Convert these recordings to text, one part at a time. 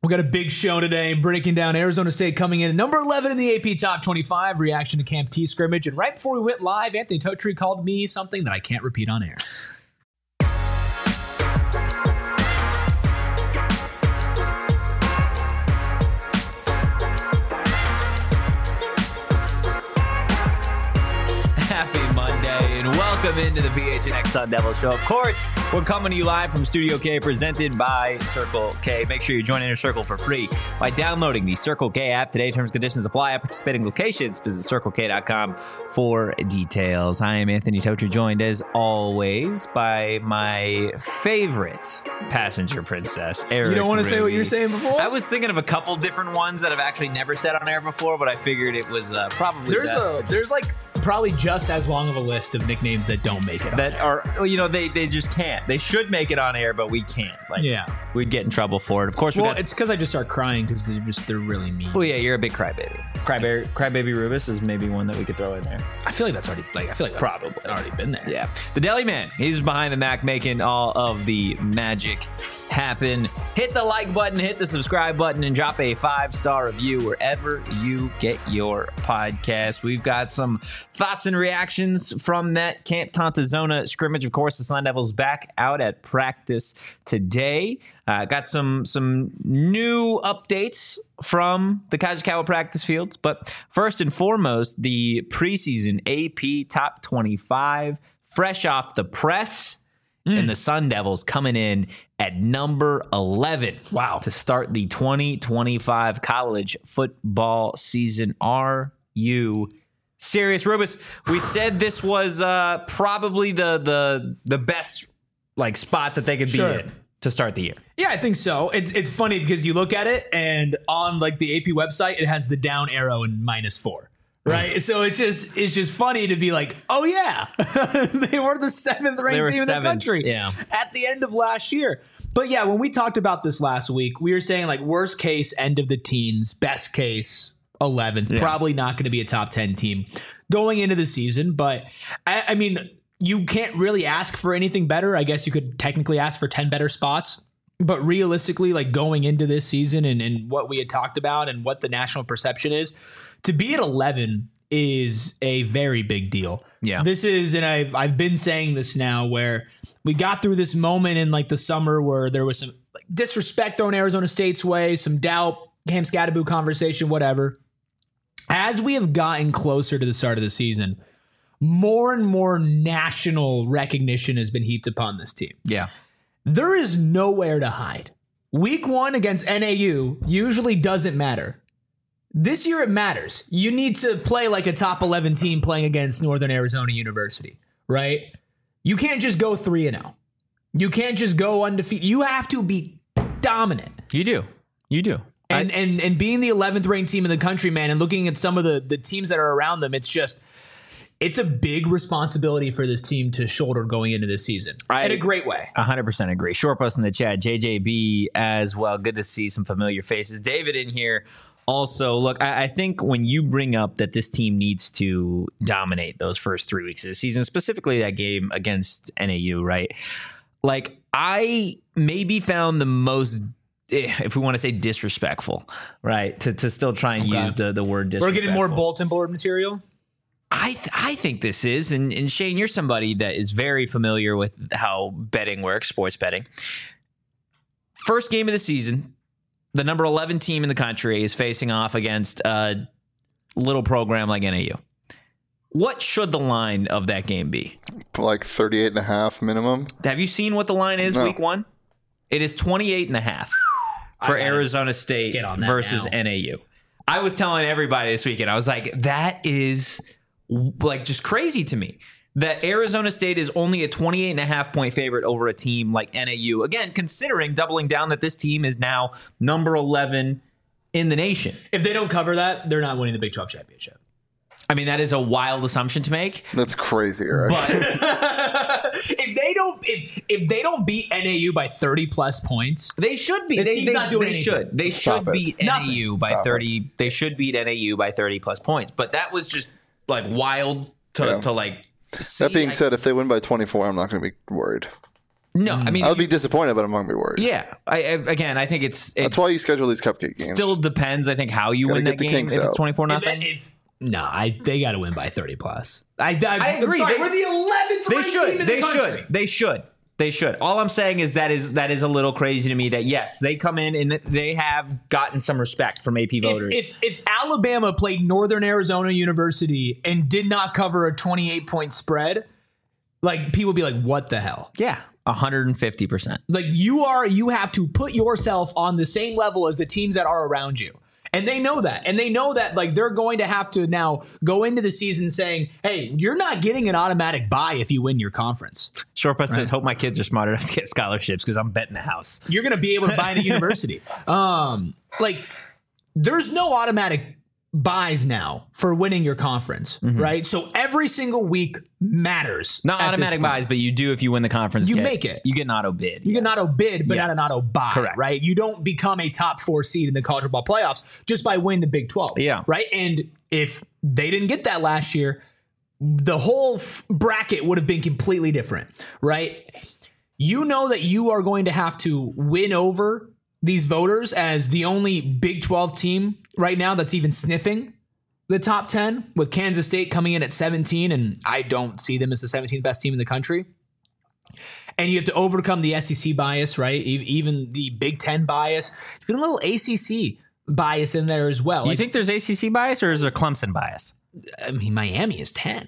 We got a big show today, breaking down Arizona State coming in at number 11 in the AP Top 25, reaction to Camp T scrimmage. And right before we went live, Anthony Totri called me something that I can't repeat on air. Happy Monday and welcome into the PHNX Sun Devils Show. Of course, we're coming to you live from Studio K, presented by Circle K. Make sure you join Inner Circle for free by downloading the Circle K app today. Terms and conditions apply at participating locations. Visit CircleK.com for details. I am Anthony Totri, joined as always by my favorite passenger princess, Eric. You don't want to say what you were saying before? I was thinking of a couple different ones that I've actually never said on air before, but I figured it was probably best. There's like probably just as long of a list of nicknames that don't make it on that air. Are, you know, they just can't. They should make it on air, but we can't. Like, yeah, we'd get in trouble for it. Of course, it's because I just start crying because they're really mean. Well, yeah, you're a big crybaby. Crybaby Rubus is maybe one that we could throw in there. I feel like that's probably already been there. Yeah, the Deli Man, he's behind the Mac, making all of the magic happen. Hit the like button, hit the subscribe button, and drop a 5-star review wherever you get your podcast. We've got some thoughts and reactions from that Camp Tontozona scrimmage. Of course, the Sun Devils back out at practice today. Got some new updates from the Kajikawa practice fields. But first and foremost, the preseason AP Top 25, fresh off the press, and the Sun Devils coming in at number 11. Wow. To start the 2025 college football season. Are you serious? Rubus, we said this was probably the best like spot that they could be in to start the year. Yeah, I think so. It's funny because you look at it and on like the AP website, it has the down arrow and -4. Right. So it's just funny to be like, oh, yeah, they were the 7th ranked team in the country at the end of last year. But yeah, when we talked about this last week, we were saying like worst case, end of the teens, best case, 11th, probably not going to be a top 10 team going into the season. But I mean, you can't really ask for anything better. I guess you could technically ask for 10 better spots. But realistically, like going into this season and what we had talked about and what the national perception is, to be at 11 is a very big deal. Yeah. This is, and I've been saying this now, where we got through this moment in like the summer where there was some like disrespect thrown Arizona State's way, some doubt, Cam Scadaboo conversation, whatever. As we have gotten closer to the start of the season, more and more national recognition has been heaped upon this team. Yeah. There is nowhere to hide. Week 1 against NAU usually doesn't matter. This year it matters. You need to play like a top 11 team playing against Northern Arizona University, right? You can't just go 3-0. You can't just go undefeated. You have to be dominant. You do. And being the 11th ranked team in the country, man, and looking at some of the teams that are around them, it's a big responsibility for this team to shoulder going into this season in a great way. 100% agree. Short post in the chat, JJB as well. Good to see some familiar faces. David in here also. Look, I think when you bring up that this team needs to dominate those first 3 weeks of the season, specifically that game against NAU, right? Like, I maybe found the most, if we want to say disrespectful, right, to still try and use the word disrespectful. We're getting more bulletin board material. I think this is, and Shane, you're somebody that is very familiar with how betting works, sports betting. First game of the season, the number 11 team in the country is facing off against a little program like NAU. What should the line of that game be? Like 38.5 minimum. Have you seen what the line is week 1? It is 28.5 for Arizona State versus NAU. I was telling everybody this weekend, I was like, that is like just crazy to me that Arizona State is only a 28.5 point favorite over a team like NAU. Again, considering doubling down that this team is now number 11 in the nation. If they don't cover that, they're not winning the Big 12 championship. I mean, that is a wild assumption to make. That's crazy, right? But if they don't beat NAU by 30 plus points, they should be. They should beat NAU by 30. They should beat NAU by 30 plus points. But that was just like wild to like. That being said, if they win by 24, I'm not going to be worried. No, I mean, I would be disappointed, but I'm not going to be worried. yeah. I think it That's why you schedule these cupcake games. still depends. I think how you Gotta win get that the game. If kinks it's out. 24-0. They got to win by 30 plus. I agree. Sorry, we're the 11th They ranked should. team in They the country. should. They should. They should. All I'm saying is that is a little crazy to me that, yes, they come in and they have gotten some respect from AP voters. If Alabama played Northern Arizona University and did not cover a 28-point spread, like people would be like, what the hell? Yeah, 150%. Like you have to put yourself on the same level as the teams that are around you. And they know that. And they know that like they're going to have to now go into the season saying, hey, you're not getting an automatic bye if you win your conference. Shortbus says, hope my kids are smart enough to get scholarships because I'm betting the house. You're going to be able to buy in a university. Like there's no automatic buys now for winning your conference, right? So every single week matters. Not at automatic this point. buys, but you do if you win the conference. You make it. You get an auto bid. You get an auto bid, but Yeah. not an auto buy, Correct. right? You don't become a top 4 seed in the college football playoffs just by winning the Big 12, Yeah. right? And if they didn't get that last year, the whole bracket would have been completely different, right? You know that you are going to have to win over these voters as the only Big 12 team right now that's even sniffing the top 10, with Kansas State coming in at 17, and I don't see them as the 17th best team in the country. And you have to overcome the SEC bias, right? Even the Big 10 bias, even a little ACC bias in there as well. You think there's ACC bias or is there Clemson bias? I mean, Miami is 10.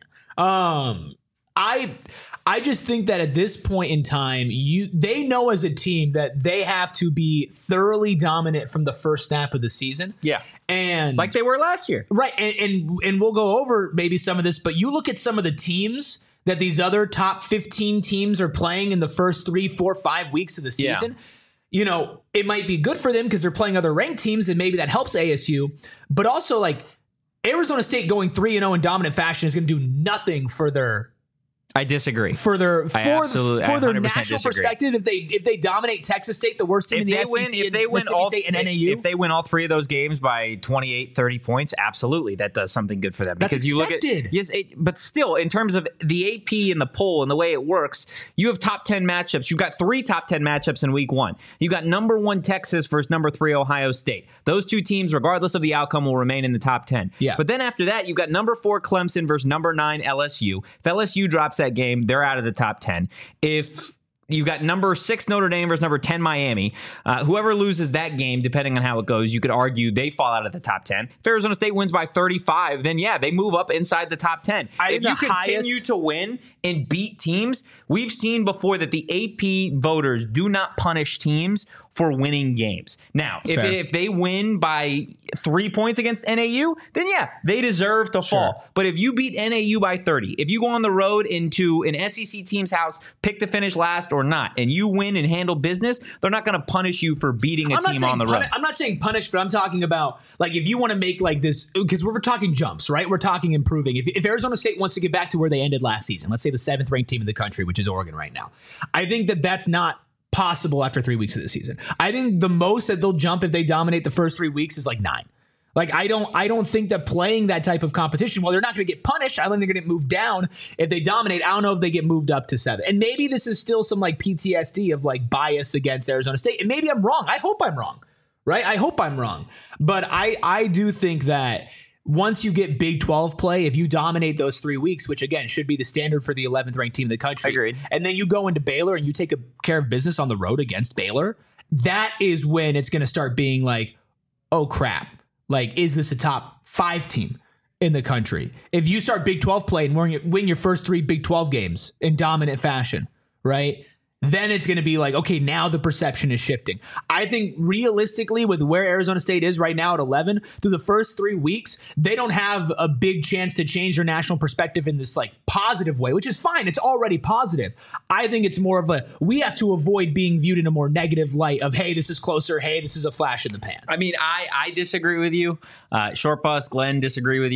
I just think that at this point in time, they know as a team that they have to be thoroughly dominant from the first snap of the season. Yeah. And Like they were last year. right, and we'll go over maybe some of this, but you look at some of the teams that these other top 15 teams are playing in the first 3, 4, 5 weeks of the Yeah. season. You know, it might be good for them because they're playing other ranked teams, and maybe that helps ASU. But also, like Arizona State going 3-0 in dominant fashion is going to do nothing for their I disagree. for their absolutely- I for their 100% national disagree. perspective. If they dominate Texas State, the worst team in the SEC, if they win Mississippi all State and NAU, if they win all 3 of those games by 28, 30 points, absolutely that does something good for them. That's Because you look expected. at yes, but still in terms of the AP and the poll and the way it works, you have top 10 matchups. You've got 3 top 10 matchups in week 1. You got number 1 Texas versus number 3 Ohio State. Those 2 teams, regardless of the outcome, will remain in the top 10. Yeah. But then after that, you've got number 4 Clemson versus number 9 LSU. If LSU drops that game, they're out of the top 10. If you've got number 6 Notre Dame versus number 10 Miami, whoever loses that game, depending on how it goes, you could argue they fall out of the top 10. If Arizona State wins by 35, then yeah, they move up inside the top 10. If you continue to win and beat teams, we've seen before that the AP voters do not punish teams for winning games. Now, if they win by 3 points against NAU, then yeah, they deserve to fall. But if you beat NAU by 30, if you go on the road into an SEC team's house, pick to finish last or not, and you win and handle business, they're not going to punish you for beating a team on the road. I'm not saying punish, but I'm talking about like if you want to make like this, because we're talking jumps, right? We're talking improving. If Arizona State wants to get back to where they ended last season, let's say the 7th ranked team in the country, which is Oregon right now, I think that that's not possible after 3 weeks of the season. I think the most that they'll jump if they dominate the first 3 weeks is like 9. Like I don't think that playing that type of competition, well, they're not going to get punished. I don't think they're going to get moved down if they dominate. I don't know if they get moved up to 7. And maybe this is still some like PTSD of like bias against Arizona State. And maybe I'm wrong. I hope I'm wrong, right? I hope I'm wrong. But I do think that once you get Big 12 play, if you dominate those 3 weeks, which again should be the standard for the 11th ranked team in the country, Agreed. and then you go into Baylor and you take care of business on the road against Baylor, that is when it's going to start being like, oh crap, like is this a top 5 team in the country? If you start Big 12 play and win your first 3 Big 12 games in dominant fashion, right? Then it's going to be like, okay, now the perception is shifting. I think realistically with where Arizona State is right now at 11, through the first 3 weeks, they don't have a big chance to change their national perspective in this like positive way, which is fine. It's already positive. I think it's more of we have to avoid being viewed in a more negative light of, hey, this is closer. Hey, this is a flash in the pan. I mean, I disagree with you. Short Bus, Glenn, disagree with you.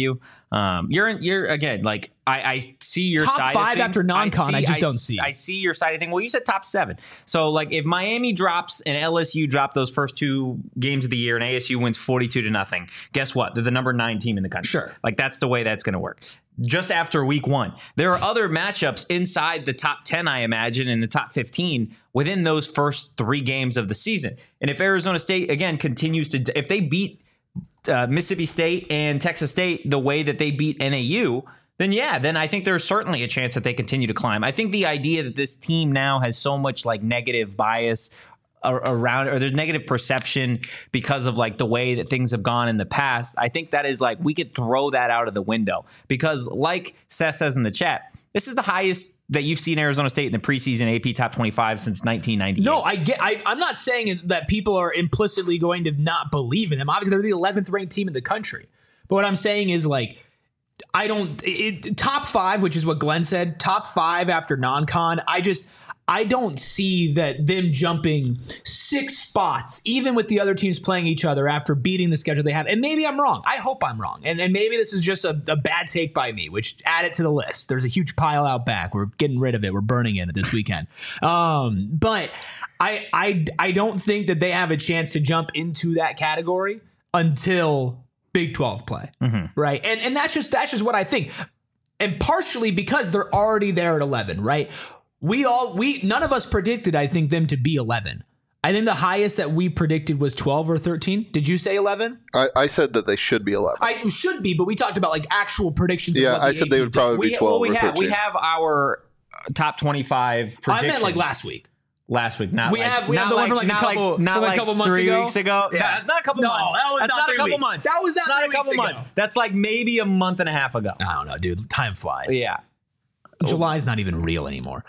You're again, like I see your top side 5 of things. after non-con. I just don't see. I see your side of things. Well, you said top 7. So like if Miami drops and LSU drop those first 2 games of the year and ASU wins 42-0, guess what? There's a number 9 team in the country. Sure. Like that's the way that's going to work. Just after week 1, there are other matchups inside the top 10, I imagine, and the top 15 within those first 3 games of the season. And if Arizona State again continues to, if they beat Mississippi State and Texas State the way that they beat NAU, then I think there's certainly a chance that they continue to climb. I think the idea that this team now has so much like negative bias around, or there's negative perception because of like the way that things have gone in the past, I think that is like we could throw that out of the window, because like Seth says in the chat, this is the highest that you've seen Arizona State in the preseason AP top 25 since 1998. No, I'm not saying that people are implicitly going to not believe in them. Obviously, they're the 11th ranked team in the country. But what I'm saying is like, top 5, which is what Glenn said, top 5 after non-con. I don't see that them jumping 6 spots, even with the other teams playing each other after beating the schedule they have. And maybe I'm wrong. I hope I'm wrong. And maybe this is just a bad take by me, which add it to the list. There's a huge pile out back. We're getting rid of it. We're burning it this weekend. But I don't think that they have a chance to jump into that category until Big 12 play. Right. And that's just what I think. And partially because they're already there at 11, right? None of us predicted, I think, them to be 11. I think the highest that we predicted was 12 or 13. Did you say 11? I said that they should be 11. I should be, but we talked about like actual predictions. Yeah, I said they would probably be 12 or 13. We have our top 25 predictions. I meant like last week. Last week, not we like, have not the one like, from like not a couple, like, not from like a couple months 3 ago. weeks ago. Yeah. That's not a couple No, months. that was That's not 3 a couple weeks. months. That was not 3 a weeks couple ago. months. That's like maybe a month and a half ago. I don't know, dude. Time flies. Yeah. July's not even real anymore.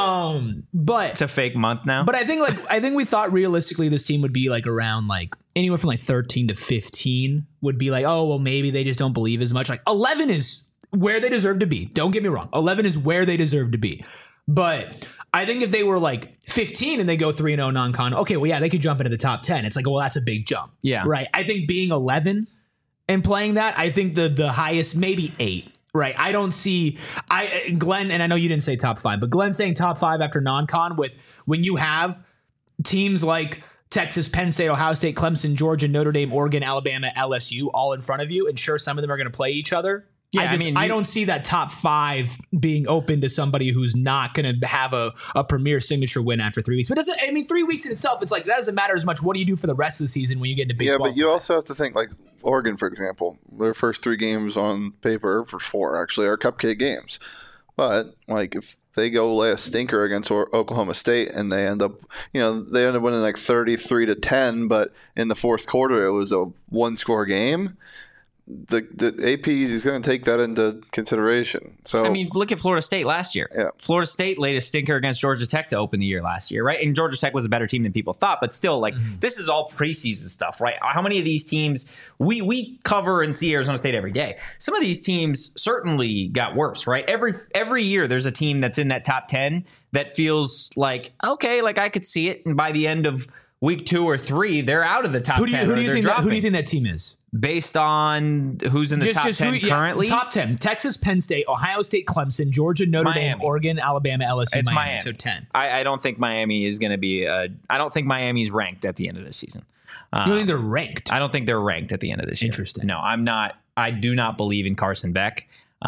But it's a fake month now. But I think we thought realistically this team would be like around like anywhere from like 13 to 15 would be like, oh well, maybe they just don't believe as much. Like 11 is where they deserve to be. Don't get me wrong. 11 is where they deserve to be. But I think if they were like 15 and they go 3-0 non-con, okay, well yeah, they could jump into the top 10. It's like, well, that's a big jump. Yeah. Right. I think being 11 and playing that, I think the highest maybe 8. Right. I don't see Glenn, and I know you didn't say top 5, but Glenn saying top 5 after non-con with when you have teams like Texas, Penn State, Ohio State, Clemson, Georgia, Notre Dame, Oregon, Alabama, LSU all in front of you, and sure, some of them are going to play each other. Yeah, I don't see that top 5 being open to somebody who's not going to have a premier signature win after 3 weeks. But 3 weeks in itself, it's like that doesn't matter as much. What do you do for the rest of the season when you get into Big 12? Yeah, but you also have to think like Oregon, for example, their first 3 games on paper, for 4 actually, are cupcake games. But like if they go lay a stinker against Oklahoma State and they end up winning like 33-10, but in the fourth quarter it was a 1-score game. The AP is going to take that into consideration. So I mean, look at Florida State last year. Yeah. Florida State laid a stinker against Georgia Tech to open the year last year, right? And Georgia Tech was a better team than people thought, but still, like this is all preseason stuff, right? How many of these teams we cover and see Arizona State every day? Some of these teams certainly got worse, right? Every year there's a team that's in that top 10 that feels like okay, like I could see it, and by the end of week 2 or 3, they're out of the top 10. Who do you think that team is? Based on who's in the top 10 currently? Top 10. Texas, Penn State, Ohio State, Clemson, Georgia, Notre Dame, Oregon, Alabama, LSU, it's Miami. So 10. I don't think Miami is going to be I don't think Miami's ranked at the end of this season. You don't think they're ranked? I don't think they're ranked at the end of this year. Interesting. No, I'm not. I do not believe in Carson Beck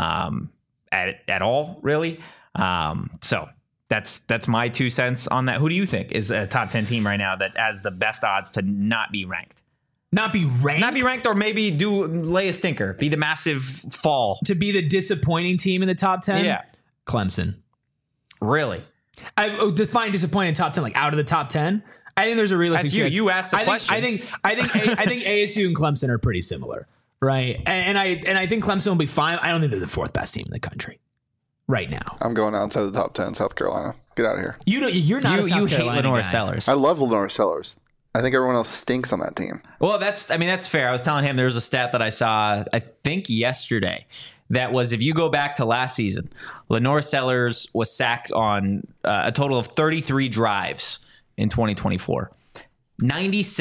at all, really. So that's my 2 cents on that. Who do you think is a top 10 team right now that has the best odds to not be ranked? Not be ranked, or maybe lay a stinker, be the massive fall to be the disappointing team in the top 10. Yeah, Clemson. Really? I define disappointing top 10 like out of the top 10. I think there's a realistic chance. You asked the question. I think ASU and Clemson are pretty similar, right? And I think Clemson will be fine. I don't think they're the 4th best team in the country right now. I'm going outside the top 10, South Carolina. Get out of here. You're not a South Carolina hate Lenore guy. Sellers. I love Lenore Sellers. I think everyone else stinks on that team. Well, that's fair. I was telling him there was a stat that I saw, I think yesterday, that was if you go back to last season, Lenore Sellers was sacked on a total of 33 drives in 2024.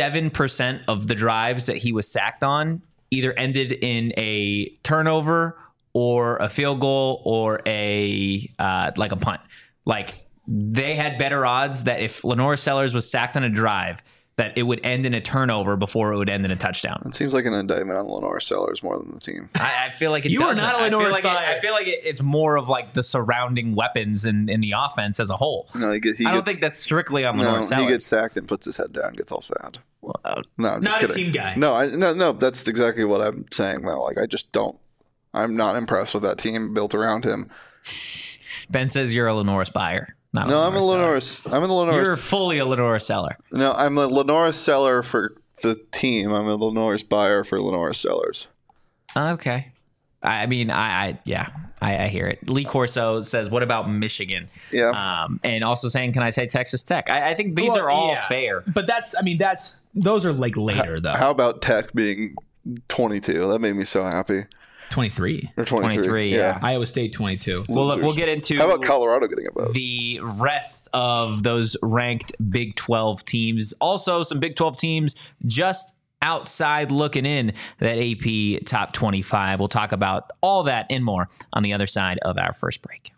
97% of the drives that he was sacked on either ended in a turnover or a field goal or a punt. Like, they had better odds that if Lenore Sellers was sacked on a drive, that it would end in a turnover before it would end in a touchdown. It seems like an indictment on Lenore Sellers more than the team. I feel like it You are doesn't. not a Lenore I feel like it's more of like the surrounding weapons in the offense as a whole. No, I don't think that's strictly on Lenore Sellers. he gets sacked and puts his head down, gets all sad. No, I'm just Not kidding. a team guy. No, that's exactly what I'm saying though. Like, I just don't. I'm not impressed with that team built around him. Ben says you're a Lenore buyer. Not No, I'm a Lenore Lenore. You're fully a Lenore seller. No, I'm a Lenore seller for the team. I'm a Lenore buyer for Lenore Sellers. Okay. I mean, I hear it. Lee Corso says, what about Michigan? Yeah. And also saying, can I say Texas Tech? I think these are all fair. But those are like later though. How about Tech being 22? That made me so happy. 23. Or 23. 23, yeah. Iowa State 22. Well, look, we'll get into How about Colorado getting above? the rest of those ranked Big 12 teams. Also, some Big 12 teams just outside looking in that AP Top 25. We'll talk about all that and more on the other side of our first break.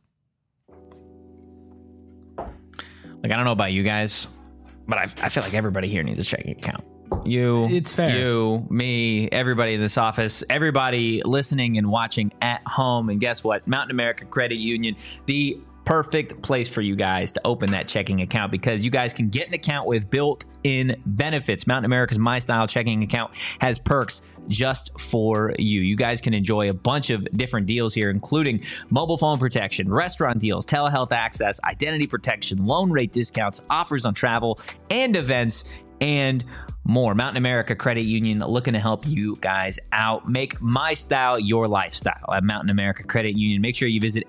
Like, I don't know about you guys, but I feel like everybody here needs a checking account. You, It's fair. You, me, everybody in this office, everybody listening and watching at home. And guess what? Mountain America Credit Union, the perfect place for you guys to open that checking account, because you guys can get an account with built-in benefits. Mountain America's My Style checking account has perks just for you. You guys can enjoy a bunch of different deals here, including mobile phone protection, restaurant deals, telehealth access, identity protection, loan rate discounts, offers on travel and events, and more. Mountain America Credit Union looking to help you guys out. Make My Style your lifestyle at Mountain America Credit Union. Make sure you visit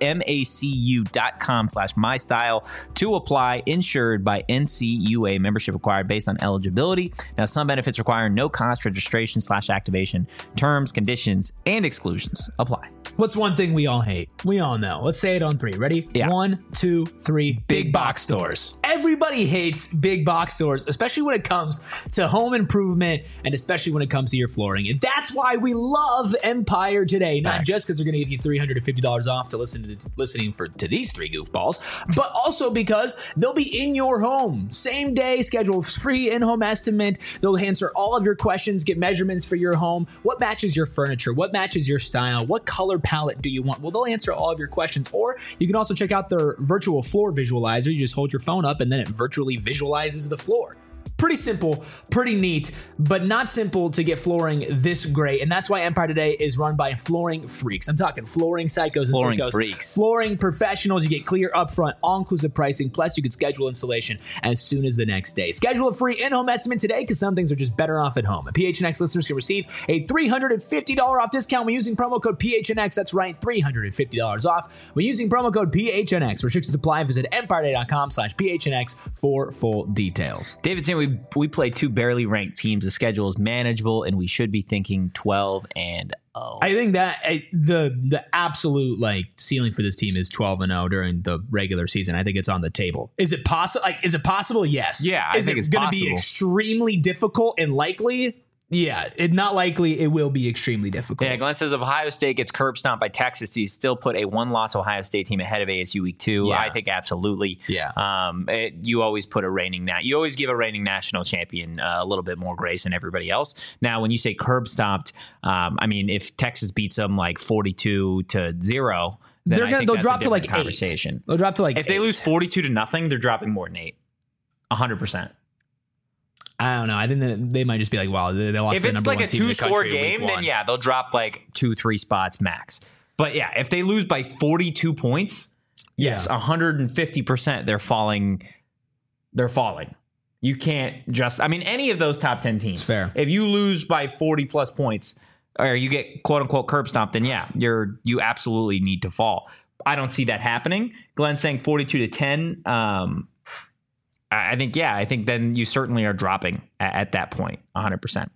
macu.com/mystyle to apply. Insured by NCUA. Membership required based on eligibility. Now, some benefits require no cost registration/activation. Terms, conditions, and exclusions apply. What's one thing we all hate? We all know. Let's say it on 3. Ready? Yeah. 1, 2, 3. Big box stores. Everybody hates big box stores, especially when it comes to home improvement and especially when it comes to your flooring. And that's why we love Empire today. Not Facts. just because they're going to give you $350 off to listening to these 3 goofballs, but also because they'll be in your home. Same day schedule, free in-home estimate. They'll answer all of your questions, get measurements for your home. What matches your furniture? What matches your style? What color palette do you want? Well, they'll answer all of your questions. Or you can also check out their virtual floor visualizer. You just hold your phone up and then it virtually visualizes the floor. Pretty simple, pretty neat, but not simple to get flooring this great. And that's why Empire Today is run by flooring freaks. I'm talking flooring psychos Flooring and psychos. freaks. Flooring professionals. You get clear upfront, all-inclusive pricing. Plus, you can schedule installation as soon as the next day. Schedule a free in-home estimate today because some things are just better off at home. And PHNX listeners can receive a $350 off discount when using promo code PHNX. That's right, $350 off when using promo code PHNX. Restrictions apply. Visit empireday.com/PHNX for full details. David saying we play 2 barely ranked teams. The schedule is manageable, and we should be thinking 12-0. I think that the absolute like ceiling for this team is 12-0 during the regular season. I think it's on the table. Is it possible? Is it possible? Yes. Yeah, I think it's going to possible. be extremely difficult and likely? Yeah, not likely. It will be extremely difficult. Yeah, Glenn says if Ohio State gets curb stomped by Texas, do you still put a 1-loss Ohio State team ahead of ASU week 2? Yeah. I think absolutely. Yeah. You always put you always give a reigning national champion a little bit more grace than everybody else. Now, when you say curb stomped, I mean, if Texas beats them like 42-0, then they'll drop to like 8. conversation. They'll drop to like If they lose 42-0, they're dropping more than 8. 100%. I don't know. I think that they might just be like, wow, they lost. If it's like a 2-score game, then yeah, they'll drop like 2-3 spots max. But yeah, if they lose by 42 points, yes, 150% they're falling. They're falling. You can't just, I mean, any of those top 10 teams. It's fair. If you lose by 40 plus points or you get quote unquote curb stomped, then yeah, you absolutely need to fall. I don't see that happening. Glenn's saying 42-10. I think then you certainly are dropping at that point, 100%.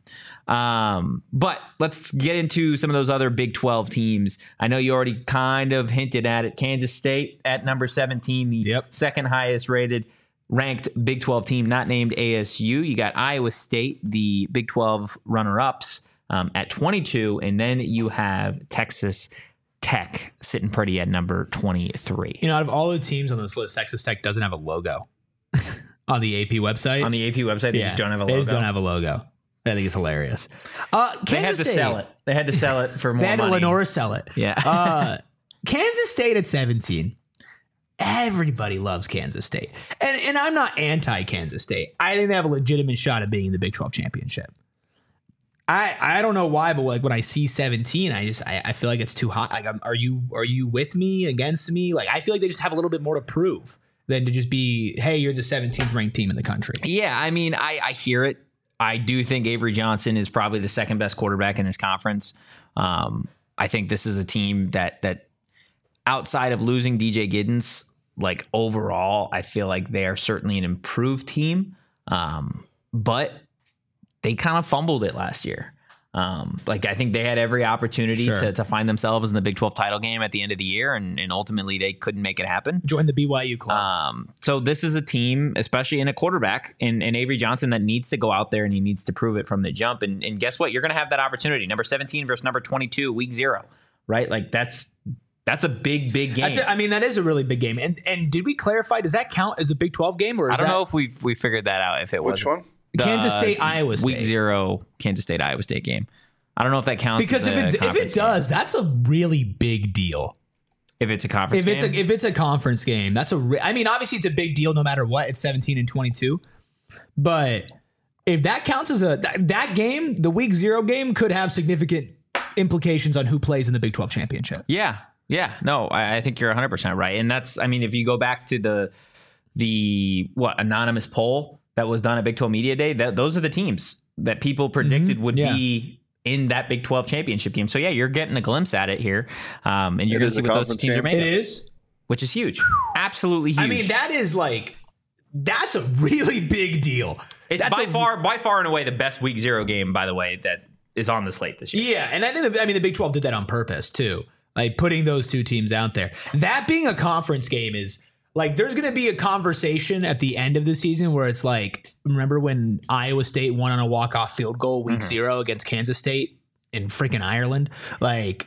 But let's get into some of those other Big 12 teams. I know you already kind of hinted at it. Kansas State at number 17, the second highest ranked Big 12 team, not named ASU. You got Iowa State, the Big 12 runner-ups, at 22, and then you have Texas Tech sitting pretty at number 23. Out of all the teams on this list, Texas Tech doesn't have a logo on the AP website. On the AP website, they just don't have a logo. They just don't have a logo. I think it's hilarious. They had to sell it. They had to sell it for more money. They had to Lenora sell it. Yeah. Kansas State at 17. Everybody loves Kansas State. And I'm not anti-Kansas State. I think they have a legitimate shot at being in the Big 12 championship. I don't know why, but like when I see 17, I feel like it's too hot. Like, are you with me, against me? Like, I feel like they just have a little bit more to prove than to just be, hey, you're the 17th ranked team in the country. Yeah, I mean, I hear it. I do think Avery Johnson is probably the second best quarterback in this conference. I think this is a team that outside of losing DJ Giddens, like overall, I feel like they are certainly an improved team. But they kind of fumbled it last year. Like I think they had every opportunity to find themselves in the Big 12 title game at the end of the year, and ultimately they couldn't make it happen. Join the BYU club. So this is a team, especially in a quarterback in Avery Johnson, that needs to go out there and he needs to prove it from the jump. And guess what? You're going to have that opportunity. Number 17 versus number 22, week 0, right? Like that's a big game. That is a really big game. And did we clarify? Does that count as a Big 12 game? Or I don't know if we figured that out. If it was which one? Kansas State, Iowa State. Week 0, Kansas State, Iowa State game. I don't know if that counts. Because if it does, that's a really big deal. If it's a conference game? If it's a conference game, that's obviously it's a big deal no matter what. It's 17 and 22. But if that counts as that game, the week 0 game could have significant implications on who plays in the Big 12 championship. Yeah. No, I think you're 100% right. And that's, if you go back to the anonymous poll that was done at Big 12 Media Day, those are the teams that people predicted would be in that Big 12 championship game. So yeah, you're getting a glimpse at it here. And you're going to see what those teams are made of. It is. Which is huge. Absolutely huge. That's a really big deal. It's by far and away the best week 0 game, by the way, that is on the slate this year. Yeah. And I think the Big 12 did that on purpose too. Like putting those two teams out there. That being a conference game is like, there's going to be a conversation at the end of the season where it's like, remember when Iowa State won on a walk-off field goal week 0 against Kansas State in freaking Ireland? Like,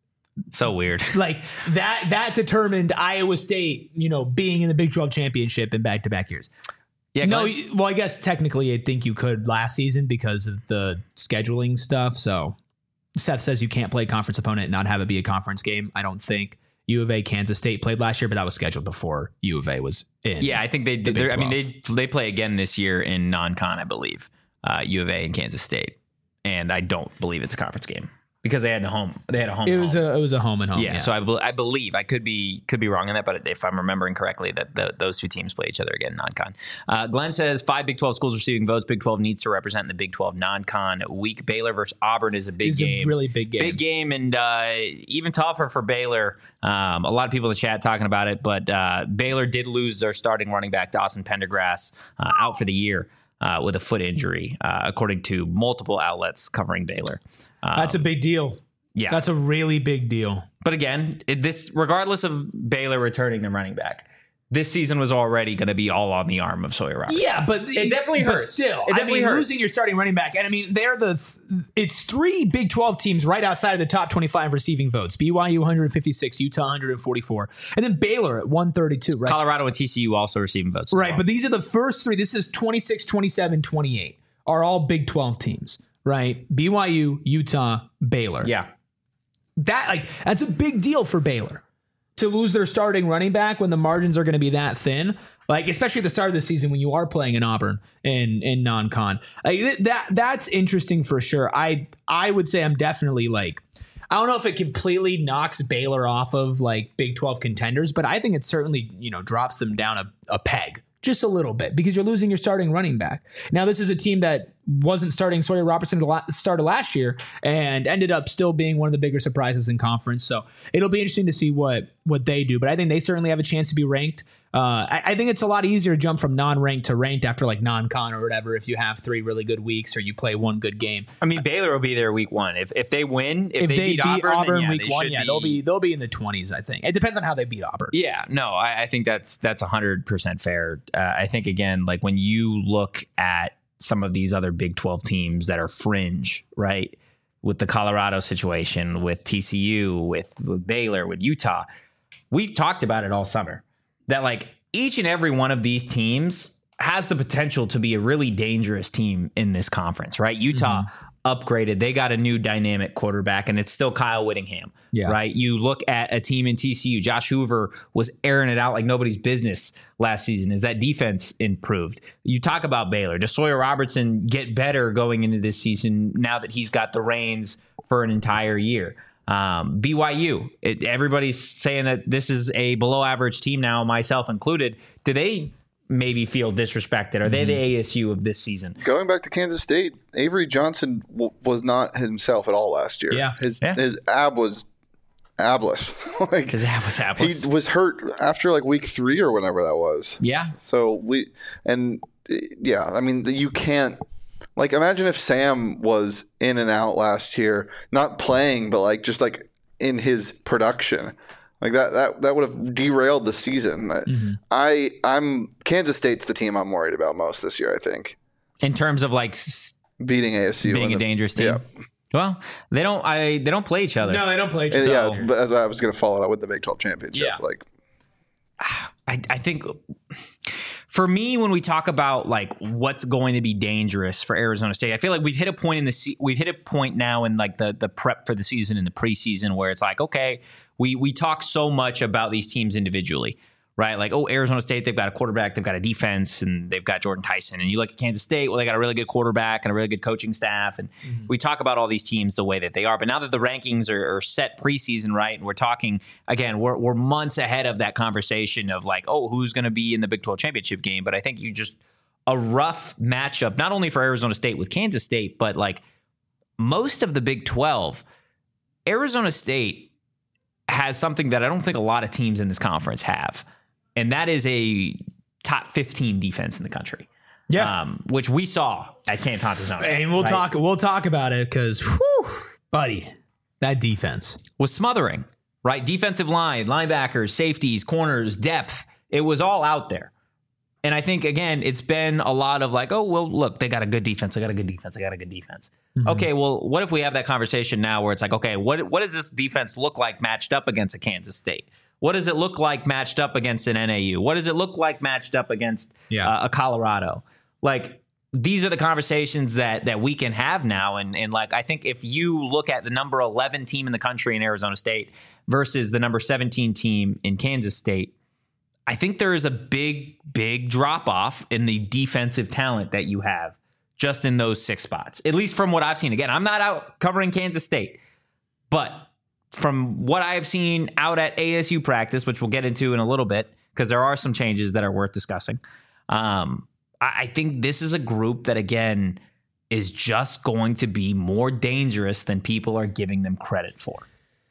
so weird. Like that determined Iowa State, being in the Big 12 championship in back-to-back years. Yeah. No, well, I guess technically I think you could last season because of the scheduling stuff. So Seth says you can't play a conference opponent and not have it be a conference game. I don't think. U of A, Kansas State played last year, but that was scheduled before U of A was in. Yeah, I think they did. They play again this year in non-con, I believe. U of A and Kansas State, and I don't believe it's a conference game because they had a home. It was a home and home. Yeah, so I believe I could be wrong on that, but if I'm remembering correctly, that those two teams play each other again non-con. Glenn says 5 Big 12 schools receiving votes. Big 12 needs to represent in the Big 12 non-con week. Baylor versus Auburn is a big game. A really big game. Big game, and even tougher for Baylor. A lot of people in the chat talking about it, but Baylor did lose their starting running back Dawson Pendergrass out for the year. With a foot injury, according to multiple outlets covering Baylor. That's a big deal. Yeah. That's a really big deal. But again, regardless of Baylor returning their running back, this season was already going to be all on the arm of Sawyer Robertson. Yeah, but it definitely hurts. But still, it definitely hurts. Losing your starting running back, and it's 3 Big 12 teams right outside of the top 25 receiving votes. BYU 156, Utah 144, and then Baylor at 132. Right? Colorado and TCU also receiving votes. Right, but these are the first 3. This is 26, 27, 28 are all Big 12 teams. Right, BYU, Utah, Baylor. Yeah, that's a big deal for Baylor. To lose their starting running back when the margins are going to be that thin, like especially at the start of the season when you are playing in Auburn in non-con, that's interesting for sure. I would say I'm definitely I don't know if it completely knocks Baylor off of Big 12 contenders, but I think it certainly drops them down a peg just a little bit because you're losing your starting running back. Now this is a team that wasn't starting Sawyer Robertson at the start of last year and ended up still being one of the bigger surprises in conference. So it'll be interesting to see what they do, but I think they certainly have a chance to be ranked. I think it's a lot easier to jump from non-ranked to ranked after non-con or whatever if you have 3 really good weeks or you play 1 good game. Baylor will be there week 1 if they win. If they beat Auburn week 1, they'll be in the 20s. I think it depends on how they beat Auburn. Yeah, no, I think that's 100% fair. I think again, when you look at some of these other Big 12 teams that are fringe, right? with the Colorado situation, with TCU, with Baylor, with Utah. We've talked about it all summer that like each and every one of these teams has the potential to be a really dangerous team in this conference, right? Utah upgraded. They got a new dynamic quarterback, and it's still Kyle Whittingham, right? You look at a team in TCU. Josh Hoover was airing it out like nobody's business last season. As that defense improved? You talk about Baylor. Does Sawyer Robertson get better going into this season now that he's got the reins for an entire year? BYU, everybody's saying that this is a below average team now, myself included. Do they maybe feel disrespected? Are they the ASU of this season? Going back to Kansas State, Avery Johnson was not himself at all last year. Yeah. His ab was abless. His ab was abless. He was hurt after like week 3 or whenever that was. Yeah. So I mean, you can't, like, imagine if Sam was in and out last year, not playing, but like just like in his production. Like that would have derailed the season. I'm Kansas State's the team I'm worried about most this year, I think. In terms of like beating ASU, being a dangerous team. Yeah. Well, they don't play each other. No, they don't play each other. Yeah, but I was going to follow it up with the Big 12 championship. Yeah. Like, I think for me, when we talk about like what's going to be dangerous for Arizona State, I feel like we've hit a point now in like the prep for the season and the preseason where it's like, okay, we talk so much about these teams individually, right? Like, oh, Arizona State, they've got a quarterback, they've got a defense, and they've got Jordan Tyson. And you look at Kansas State, well, they got a really good quarterback and a really good coaching staff. And we talk about all these teams the way that they are. But now that the rankings are set preseason, right, and we're talking, again, we're months ahead of that conversation of like, oh, who's going to be in the Big 12 championship game? But I think a rough matchup, not only for Arizona State with Kansas State, but like most of the Big 12, Arizona State has something that I don't think a lot of teams in this conference have. And that is a top 15 defense in the country. Yeah. Which we saw at Camp Thompson. And we'll talk about it because, buddy, that defense was smothering, right? Defensive line, linebackers, safeties, corners, depth. It was all out there. And I think, again, it's been a lot of like, oh, well, look, they got a good defense. They got a good defense. They got a good defense. Okay, well, what if we have that conversation now where it's like, okay, what does this defense look like matched up against a Kansas State? What does it look like matched up against an NAU? What does it look like matched up against a Colorado? Like, these are the conversations that we can have now. And like, I think if you look at the number 11 team in the country in Arizona State versus the number 17 team in Kansas State, I think there is a big, big drop off in the defensive talent that you have just in those 6 spots, at least from what I've seen. Again, I'm not out covering Kansas State, but from what I have seen out at ASU practice, which we'll get into in a little bit, because there are some changes that are worth discussing. I think this is a group that, again, is just going to be more dangerous than people are giving them credit for.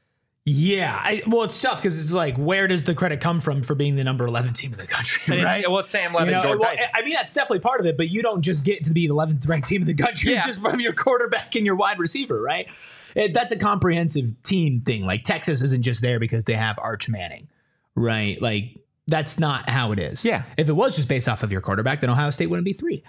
Yeah, well, it's tough because it's like, where does the credit come from for being the number 11 team in the country, right? It's Sam Levin, Jordan Tyson. I mean, that's definitely part of it, but you don't just get to be the 11th ranked team in the country just from your quarterback and your wide receiver, right? That's a comprehensive team thing. Like, Texas isn't just there because they have Arch Manning, right? Like, that's not how it is. Yeah. If it was just based off of your quarterback, then Ohio State wouldn't be 3.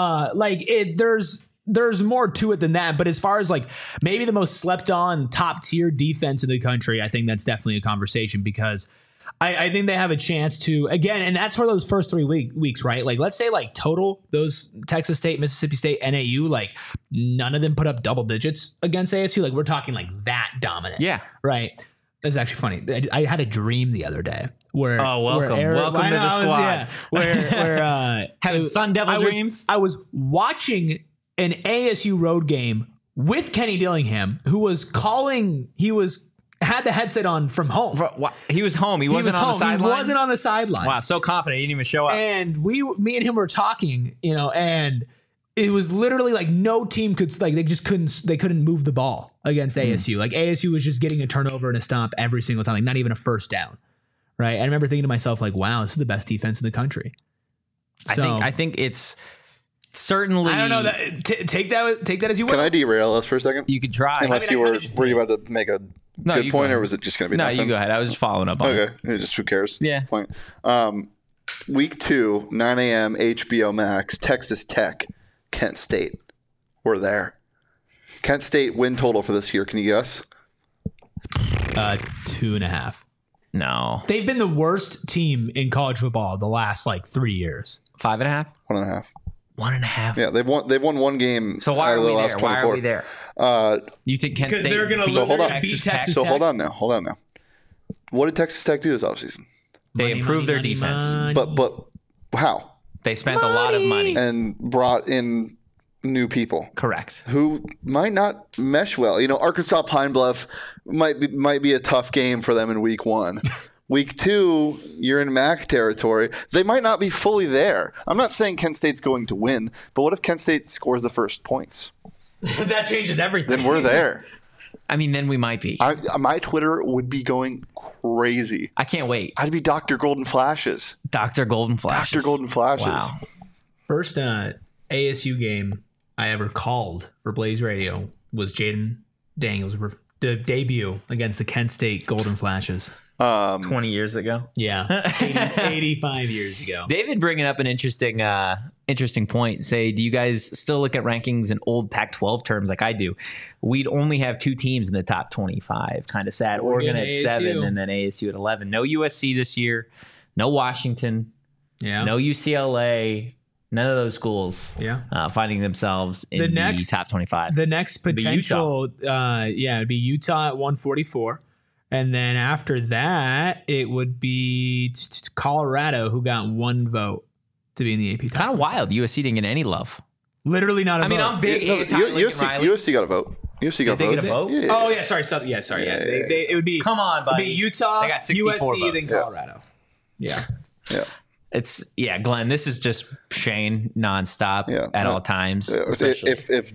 There's more to it than that. But as far as like maybe the most slept on top tier defense in the country, I think that's definitely a conversation because I think they have a chance to, again, and that's for those first 3 weeks, right? Like, let's say like total those Texas State, Mississippi State, NAU, like none of them put up double digits against ASU. Like, we're talking like that dominant. Yeah. Right. That's actually funny. I had a dream the other day where welcome to the squad. Where having Sun Devil dreams. I was watching an ASU road game with Kenny Dillingham, who was calling. Had the headset on from home. He was home. He wasn't on the sideline. He wasn't on the sideline. Wow, so confident he didn't even show up. And me and him were talking, and it was literally like no team could, like, they couldn't move the ball against ASU. Like, ASU was just getting a turnover and a stomp every single time, like not even a first down. Right. And I remember thinking to myself, like, wow, this is the best defense in the country. I think it's certainly. I don't know. Take that as you will. Can I derail us for a second? You could try. Unless were you about to make a good point, or was it just going to be nothing? No, you go ahead. I was just following up on it. Okay. Just who cares? Yeah. Point. Week 2, 9 a.m. HBO Max, Texas Tech, Kent State. We're there. Kent State win total for this year. Can you guess? 2.5. No. They've been the worst team in college football the last 3 years. 5.5? 1.5. 1.5. Yeah, they've won one game. So why out are of the we last there? Why 24. are we there? You think Kent Because State they're going to beat lose. hold on. Beat Texas So Tech. hold on now. What did Texas Tech do this offseason? They improved their Money, defense. money. But how? They spent a lot of money. And brought in new people Correct. who might not mesh well. Arkansas Pine Bluff might be a tough game for them in week 1. Week 2, you're in MAC territory. They might not be fully there. I'm not saying Kent State's going to win, but what if Kent State scores the first points? That changes everything. Then we're there. I mean, then we might be. My Twitter would be going crazy. I can't wait. I'd be Dr. Golden Flashes. Dr. Golden Flashes. Dr. Golden Flashes. Wow. First ASU game I ever called for Blaze Radio was Jaden Daniels' debut against the Kent State Golden Flashes. 20 years ago. Yeah, 85 years ago. David bringing up an interesting point. Say, do you guys still look at rankings in old Pac-12 terms like I do? We'd only have 2 teams in the top 25. Kind of sad. Oregon at ASU. 7 and then ASU at 11. No USC this year. No Washington. Yeah. No UCLA. None of those schools finding themselves in the top 25. The next potential, it'd be Utah at 144. And then after that, it would be Colorado, who got 1 vote to be in the AP top. Kind of wild. USC didn't get any love. Literally not a vote. I'm big. USC got a vote. USC got Did they votes. get a vote? Yeah. Oh, yeah, sorry. It would be, Come on, buddy. it'd be Utah, They got 64 USC, votes. then Colorado. Yeah. Yeah. Glenn, this is just Shane nonstop at all times. especially.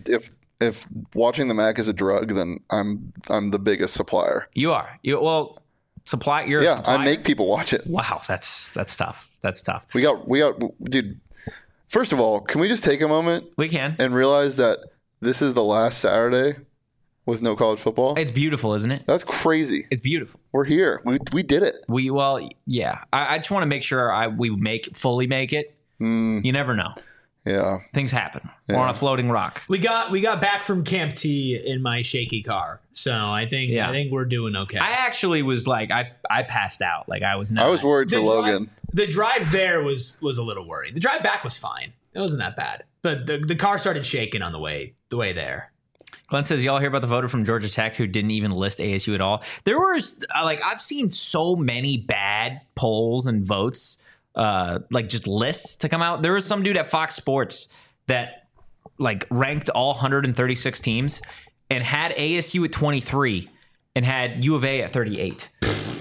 If watching the MAC is a drug, then I'm the biggest supplier. You are. Supply. You're a Yeah, supplier? I make people watch it. Wow, that's tough. That's tough. We got, dude. First of all, can we just take a moment We can. and realize that this is the last Saturday with no college football? It's beautiful, isn't it? That's crazy. It's beautiful. We're here. We did it. I just want to make sure we fully make it. You never know. Yeah. Things happen. We're on a floating rock. We got back from Camp T in my shaky car. So I think we're doing okay. I actually was I passed out. I was not. I was worried for Logan. The drive there was a little worried. The drive back was fine. It wasn't that bad. But the car started shaking on the way there. Glenn says, y'all hear about the voter from Georgia Tech who didn't even list ASU at all? There was I've seen so many bad polls and votes, just lists to come out. There was some dude at Fox Sports that ranked all 136 teams and had ASU at 23 and had U of A at 38.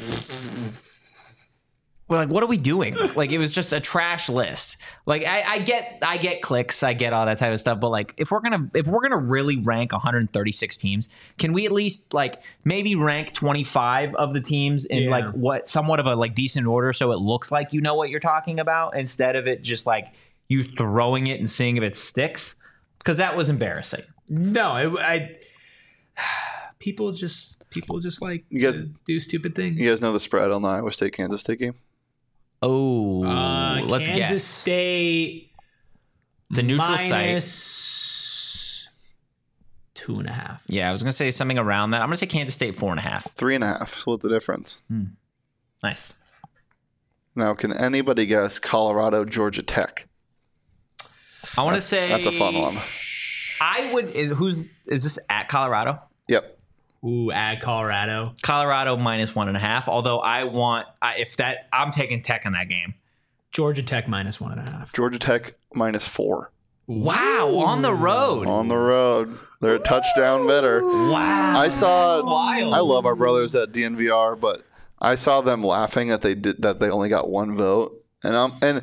We're what are we doing? It was just a trash list. I get clicks, I get all that type of stuff, but if we're gonna really rank 136 teams, can we at least maybe rank 25 of the teams in what somewhat of a decent order so it looks like you know what you're talking about instead of it just you throwing it and seeing if it sticks? Because that was embarrassing. No, people just like to do stupid things. You guys know the spread on the Iowa State Kansas State game? Oh, let's Kansas guess. State. It's a neutral site. Minus 2.5. Yeah, I was gonna say something around that. I'm gonna say Kansas State 4.5. 3.5. Split the difference. Nice. Now, can anybody guess Colorado, Georgia Tech? I want to say That's a fun one. I would. Is this at Colorado? Yep. Ooh, add Colorado. Colorado minus 1.5. Although I'm taking Tech in that game. Georgia Tech minus 1.5. Georgia Tech minus 4. Wow, on the road. On the road. They're a touchdown better. Wow. I saw. Wild. I love our brothers at DNVR, but I saw them laughing that they only got 1 vote, and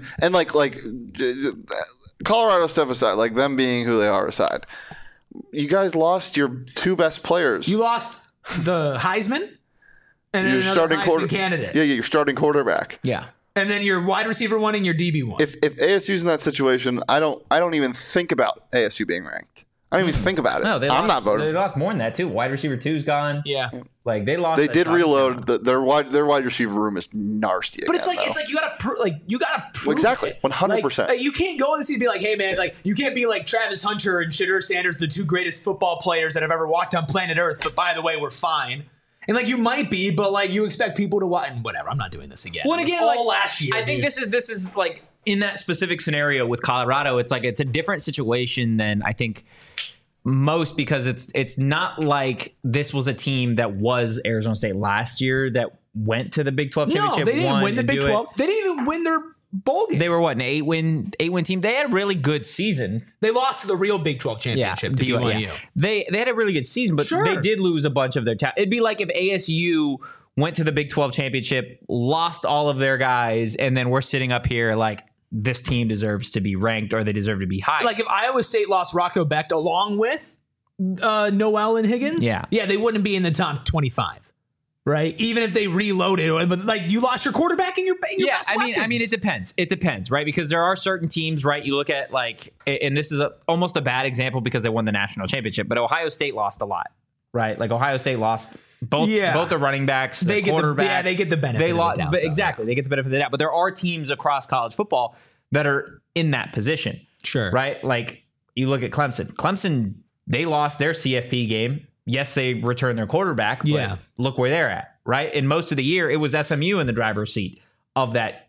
Colorado stuff aside, them being who they are aside, you guys lost your 2 best players. You lost the Heisman and then your another Heisman candidate. Yeah, your starting quarterback. Yeah. And then your wide receiver 1 and your DB 1. If ASU's in that situation, I don't even think about ASU being ranked. I didn't even think about it. No, I'm not voting. They lost more than that too. Wide receiver 2's gone. Yeah. Like they lost. They did reload. Their wide receiver room is nasty. But again, it's like you gotta prove exactly it. 100%. Like, you can't go in the season and be like, hey man, like you can't be like Travis Hunter and Shedeur Sanders, the two greatest football players that have ever walked on planet Earth. But by the way, we're fine. And like you might be, but like you expect people to watch and whatever. I'm not doing this again. Well, again, all last year. I think this is like in that specific scenario with Colorado. It's like it's a different situation than I think most, because it's not like this was a team that was Arizona State last year that went to the Big 12 championship. No, they didn't win the Big 12. They didn't even win their bowl game. They were what, an eight win team? They had a really good season. They lost to the real Big 12 championship. To BYU. Yeah. They had a really good season, but they did lose a bunch of their talent. It'd be like if ASU went to the Big 12 championship, lost all of their guys, and then we're sitting up here like this team deserves to be ranked or they deserve to be high. Like if Iowa State lost Rocco Becht along with Noel and Higgins, they wouldn't be in the top 25, right? Even if they reloaded, but like you lost your quarterback and your best weapons. I mean, it depends, right? Because there are certain teams, right? You look at like, and this is almost a bad example because they won the national championship, but Ohio State lost a lot, right? Like Ohio State lost both the running backs, the quarterback. They get the benefit. They lost, of the doubt, but exactly, they get the benefit of the doubt. But there are teams across college football that are in that position, sure, right? Like you look at Clemson. Clemson, they lost their CFP game. Yes, they returned their quarterback, but look where they're at, right? And most of the year, it was SMU in the driver's seat of that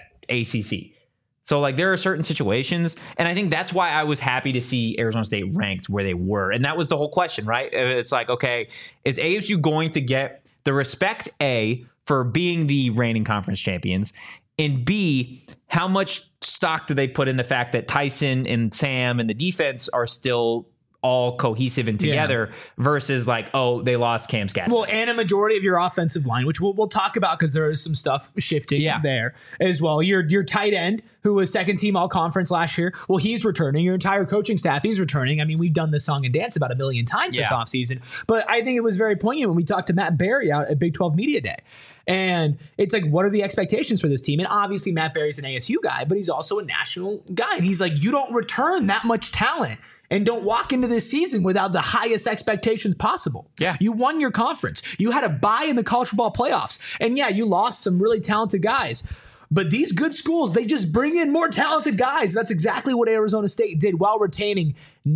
ACC. So, like, there are certain situations, and I think that's why I was happy to see Arizona State ranked where they were. And that was the whole question, right? It's like, okay, is ASU going to get the respect, A, for being the reigning conference champions, and B, how much stock do they put in the fact that Tyson and Sam and the defense are still all cohesive and together versus like, oh, they lost Cam Skadden. Well, and a majority of your offensive line, which we'll talk about because there is some stuff shifting there as well. Your tight end, who was second team all conference last year, well, he's returning. Your entire coaching staff, he's returning. I mean, we've done this song and dance about a million times this offseason, but I think it was very poignant when we talked to Matt Berry out at Big 12 Media Day. And it's like, what are the expectations for this team? And obviously Matt Berry's an ASU guy, but he's also a national guy. And he's like, you don't return that much talent and don't walk into this season without the highest expectations possible. Yeah. You won your conference. You had a bye in the college football playoffs. And you lost some really talented guys. But these good schools, they just bring in more talented guys. That's exactly what Arizona State did while retaining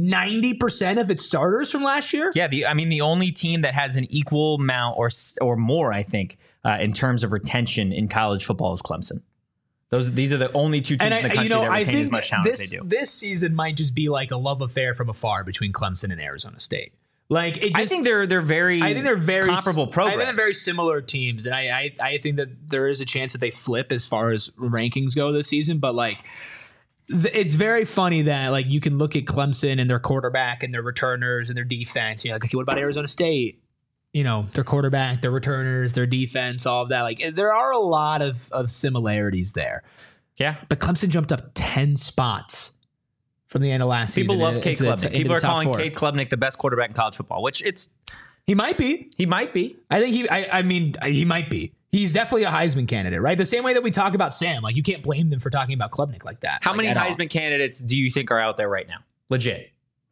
90% of its starters from last year. Yeah, the only team that has an equal amount or more, I think, in terms of retention in college football is Clemson. These are the only two teams in the country that retain as much talent as they do. This season might just be like a love affair from afar between Clemson and Arizona State. Like I think they're very comparable programs. I think they're very similar teams, and I think that there is a chance that they flip as far as rankings go this season. But like, it's very funny that like you can look at Clemson and their quarterback and their returners and their defense. You're like, okay, what about Arizona State? Their quarterback, their returners, their defense, all of that. Like, there are a lot of similarities there. Yeah. But Clemson jumped up 10 spots from the end of last season. People love Cade Klubnik. People are calling Cade Klubnik the best quarterback in college football, which he might be. He might be. I think he might be. He's definitely a Heisman candidate, right? The same way that we talk about Sam. Like, you can't blame them for talking about Klubnik like that. How many Heisman candidates do you think are out there right now? Legit.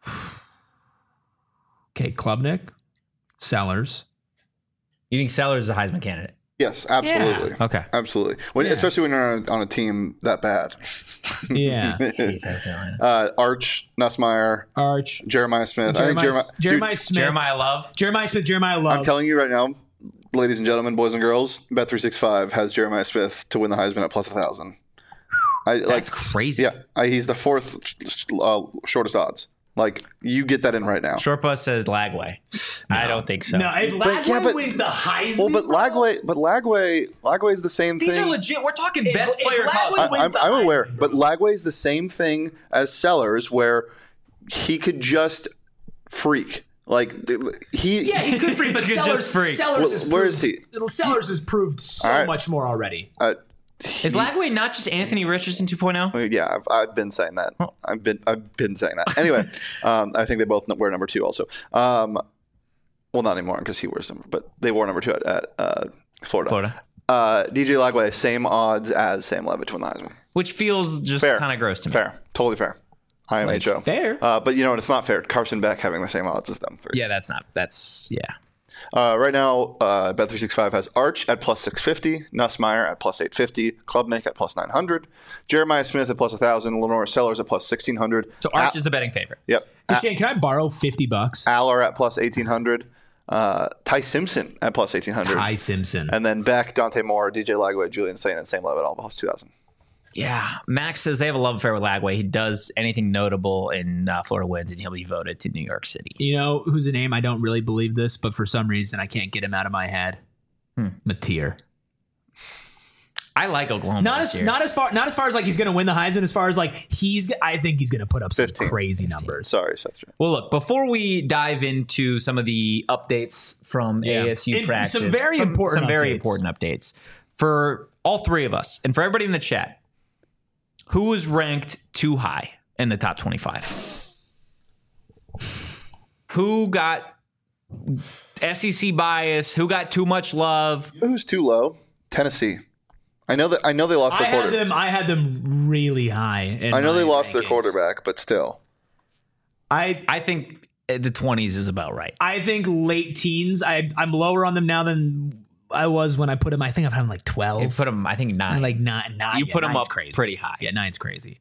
Cade Klubnik. Sellers. You think Sellers is a Heisman candidate? Yes, absolutely. Yeah. Okay. Absolutely. Especially when you're on a team that bad. Yeah. Arch, Nussmeier. Jeremiah Smith. Jeremiah Love. Jeremiah Smith. I'm telling you right now, ladies and gentlemen, boys and girls, Bet365 has Jeremiah Smith to win the Heisman at plus 1,000. That's crazy. Yeah. He's the fourth shortest odds. Like, you get that in right now. Shortbus says Lagway. No. I don't think so. No, if Lagway wins the Heisman. Well, but Lagway is the same thing. These are legit. We're talking best player in college. I'm aware, but Lagway is the same thing as Sellers, where he could just freak. Like he could freak, but Sellers where is he? Sellers has proved so much more already. Is Lagway not just Anthony Richardson 2.0? Yeah, I've been saying that. I've been saying that. Anyway, I think they both wear number 2 also. Well, not anymore because he wears number, but they wore number 2 at Florida. DJ Lagway, same odds as Sam Levitt to win the Heisman. Which feels just kind of gross to me. Fair. Totally fair. IMHO. Like, fair. But you know what? It's not fair. Carson Beck having the same odds as them three. Yeah, that's Right now, Bet365 has Arch at plus 650, Nussmeier at plus 850, Klubnik at plus 900, Jeremiah Smith at plus 1,000, Lenore Sellers at plus 1,600. So Arch is the betting favorite. Yep. Shane, can I borrow $50? Aller at plus 1,800, Ty Simpson at plus 1,800. Ty Simpson. And then Beck, Dante Moore, DJ Lagway, Julian Saint at same level at all plus 2,000. Yeah, Max says they have a love affair with Lagway. He does anything notable in Florida wins, and he'll be voted to New York City. You know who's a name? I don't really believe this, but for some reason I can't get him out of my head. Mateer. I like Oklahoma. Not as far as like he's going to win the Heisman. As far as like I think he's going to put up some 15. crazy numbers. Sorry, Seth. Well, look, before we dive into some of the updates from ASU practice, some very important updates for all three of us and for everybody in the chat. Who was ranked too high in the top 25? Who got SEC bias? Who got too much love? Who's too low? Tennessee. I know they lost their quarterback. I had them really high. I know they lost their quarterback, but still. I think the 20s is about right. I think late teens. I'm lower on them now than I was when I put them. I think I've had them like 12. You put them, I think 9. Like 9. You put them up crazy. pretty high. Yeah, 9's crazy.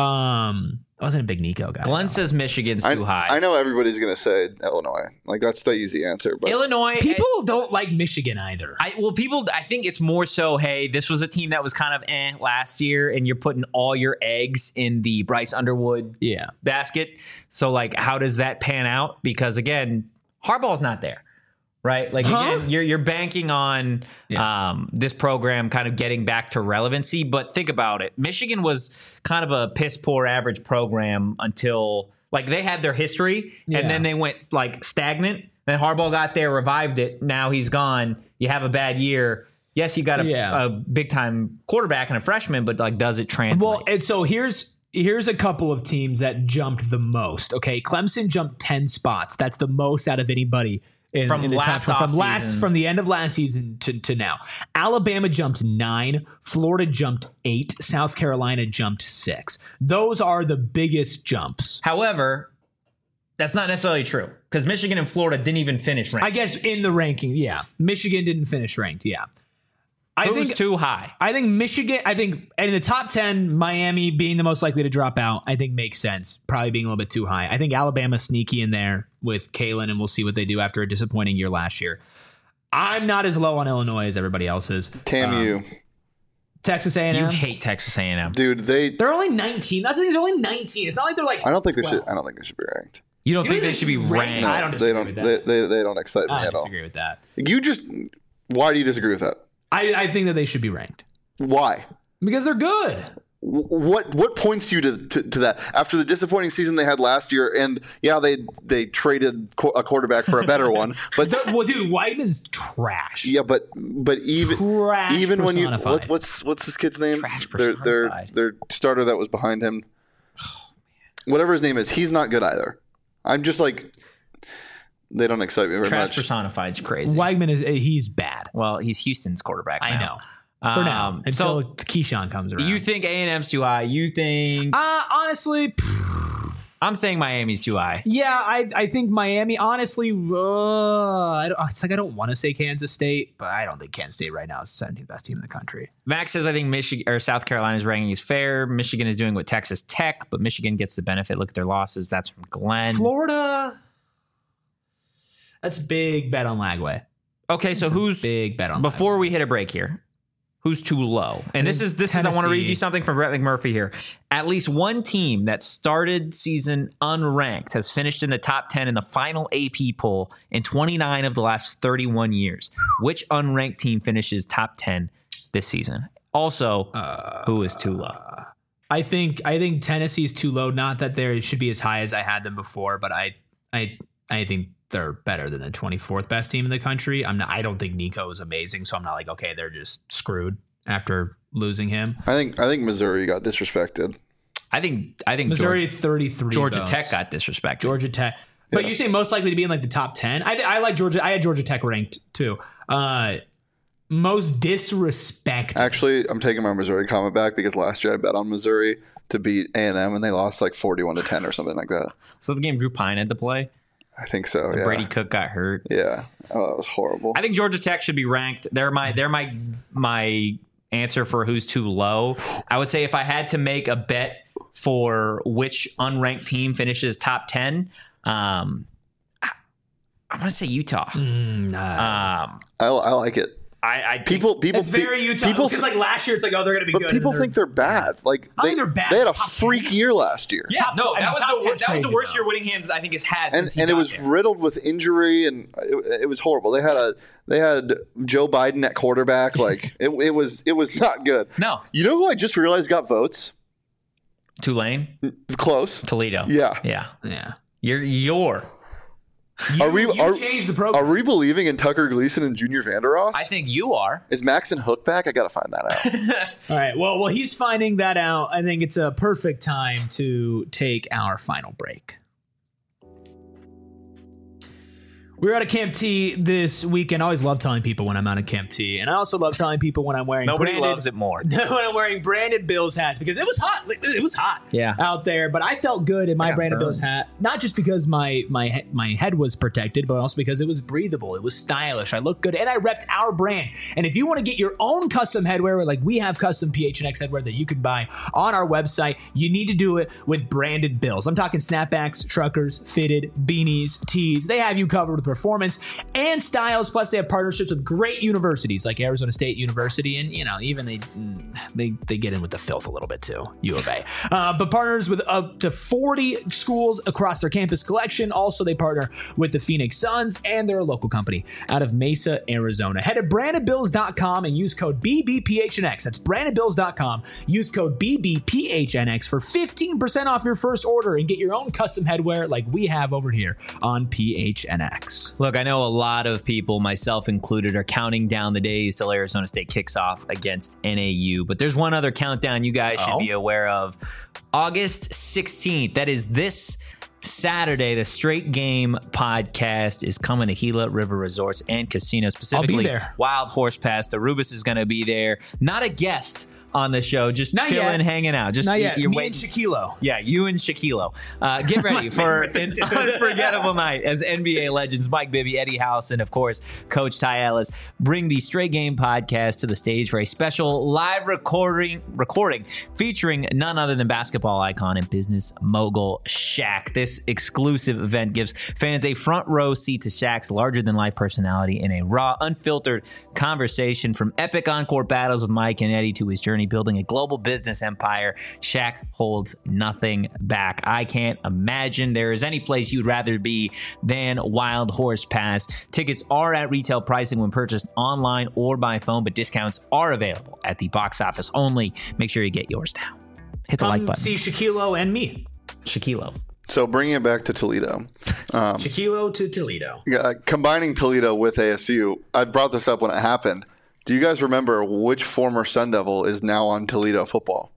I wasn't a big Nico guy. Glenn says Michigan's too high. I know everybody's going to say Illinois. Like, that's the easy answer. But Illinois. People don't like Michigan either. I think it's more so, hey, this was a team that was kind of last year, and you're putting all your eggs in the Bryce Underwood basket. So, like, how does that pan out? Because, again, Harbaugh's not there. Right? Like, again, you're banking on this program kind of getting back to relevancy. But think about it. Michigan was kind of a piss poor average program until, like, they had their history and then they went, like, stagnant. Then Harbaugh got there, revived it. Now he's gone. You have a bad year. Yes, you got a big-time quarterback and a freshman, but, like, does it translate? Well, and so here's a couple of teams that jumped the most. Okay, Clemson jumped 10 spots. That's the most out of anybody. From the end of last season to now. Alabama jumped 9, Florida jumped 8, South Carolina jumped 6. Those are the biggest jumps. However, that's not necessarily true because Michigan and Florida didn't even finish ranked. I guess in the ranking, Michigan didn't finish ranked, I think too high. I think Michigan, and in the top 10, Miami being the most likely to drop out, I think makes sense. Probably being a little bit too high. I think Alabama's sneaky in there with Kalen, and we'll see what they do after a disappointing year last year. I'm not as low on Illinois as everybody else is. TAMU. Texas A&M. You hate Texas A&M. Dude, they're only 19. That's the thing. They're only 19. It's not like they're like. I don't think they should be ranked. You don't think they should be ranked? No, I don't disagree with that. They don't excite me at all. I disagree with that. Why do you disagree with that? I think that they should be ranked. Why? Because they're good. What points you to that? After the disappointing season they had last year, and they traded a quarterback for a better one, but well, dude, Weidman's trash. Yeah, but even when you what's this kid's name? Their starter that was behind him. Whatever his name is, he's not good either. I'm just like. They don't excite me very much. Trash personified is crazy. Weigman he's bad. Well, he's Houston's quarterback now. I know. For now. Until Keyshawn comes around. You think A&M's too high? You think... honestly... I'm saying Miami's too high. Yeah, I think Miami, honestly... it's like I don't want to say Kansas State, but I don't think Kansas State right now is the 17th best team in the country. Max says, I think Michigan or South Carolina's ranking is fair. Michigan is doing what Texas Tech, but Michigan gets the benefit. Look at their losses. That's from Glenn. Florida... That's a big bet on Lagway. Okay, so who's big bet on before Lagway. We hit a break here? Who's too low? And this is I want to read you something from Brett McMurphy here. At least one team that started season unranked has finished in the top 10 in the final AP poll in 29 of the last 31 years. Which unranked team finishes top 10 this season? Also, who is too low? I think Tennessee's too low. Not that they should be as high as I had them before, but I think they're better than the 24th best team in the country. I don't think Nico is amazing, so I'm not like, okay, they're just screwed after losing him. I think Missouri got disrespected. I think Missouri 33. Georgia Tech got disrespected. Georgia Tech. But you say most likely to be in like the top 10. I like Georgia. I had Georgia Tech ranked too. most disrespect. Actually, I'm taking my Missouri comment back because last year I bet on Missouri to beat A&M and they lost like 41-10 or something like that. So the game Drew Pine had to play. I think so. Yeah. Brady Cook got hurt. Yeah. Oh, that was horrible. I think Georgia Tech should be ranked. They're my answer for who's too low. I would say if I had to make a bet for which unranked team finishes top 10, I'm gonna say Utah. I like it. I think People It's very Utah. People, Because like last year, it's like, oh, they're going to be good. but people think they're bad. Like I think they're bad. They had a Top freak 10. year last year. Yeah, no, I mean, that was top the 10's that was the crazy, worst though. year Whittingham I think has had. And since he it got was there. riddled with injury, and it was horrible. They had Joe Biden at quarterback. Like it was not good. No. You know who I just realized got votes? Tulane, Close. Toledo. Yeah. Yeah. You're. You changed the program. Are we believing in Tucker Gleason and Junior Vandeross? I think you are. Is Maxon Hook back? I gotta find that out. All right. Well, he's finding that out. I think it's a perfect time to take our final break. We were out of Camp T this weekend. I always love telling people when I'm out of Camp T. And I also love telling people when I'm wearing Nobody branded, loves it more. when I'm wearing branded Bills hats because it was hot. It was hot out there. But I felt good in my got branded burned. Bills hat. Not just because my head was protected, but also because it was breathable. It was stylish. I looked good. And I repped our brand. And if you want to get your own custom headwear, like we have custom PHNX headwear that you can buy on our website, you need to do it with branded Bills. I'm talking snapbacks, truckers, fitted, beanies, tees. They have you covered with performance and styles. Plus, they have partnerships with great universities like Arizona State University, and even they get in with the filth a little bit too. U of A, but partners with up to 40 schools across their campus collection. Also, they partner with the Phoenix Suns, and they're a local company out of Mesa, Arizona. Head to brandedbills.com and use code BBPHNX. That's brandedbills.com. Use code BBPHNX for 15% off your first order and get your own custom headwear like we have over here on PHNX. Look, I know a lot of people, myself included, are counting down the days till Arizona State kicks off against NAU. But there's one other countdown you guys should be aware of. August 16th. That is this Saturday. The Straight Game podcast is coming to Gila River Resorts and Casinos, specifically I'll be there. Wild Horse Pass. The Rubus is going to be there. Not a guest on the show, just Not chilling, yet. hanging out. Just Not yet. You're Me waiting. and Shaquilo. Yeah, you and Shaquilo. Get ready for an unforgettable night as NBA legends Mike Bibby, Eddie House, and of course, Coach Ty Ellis bring the Straight Game podcast to the stage for a special live recording featuring none other than basketball icon and business mogul Shaq. This exclusive event gives fans a front row seat to Shaq's larger-than-life personality in a raw, unfiltered conversation from epic on-court battles with Mike and Eddie to his journey building a global business empire. Shaq holds nothing back. I can't imagine there is any place you'd rather be than Wild Horse Pass. Tickets are at retail pricing when purchased online or by phone, but discounts are available at the box office only. Make sure you get yours now. Hit the like button. See Shaquilo and me. Shaquilo. So bringing it back to Toledo. Shaquilo to Toledo. Combining Toledo with ASU, I brought this up when it happened. Do you guys remember which former Sun Devil is now on Toledo football?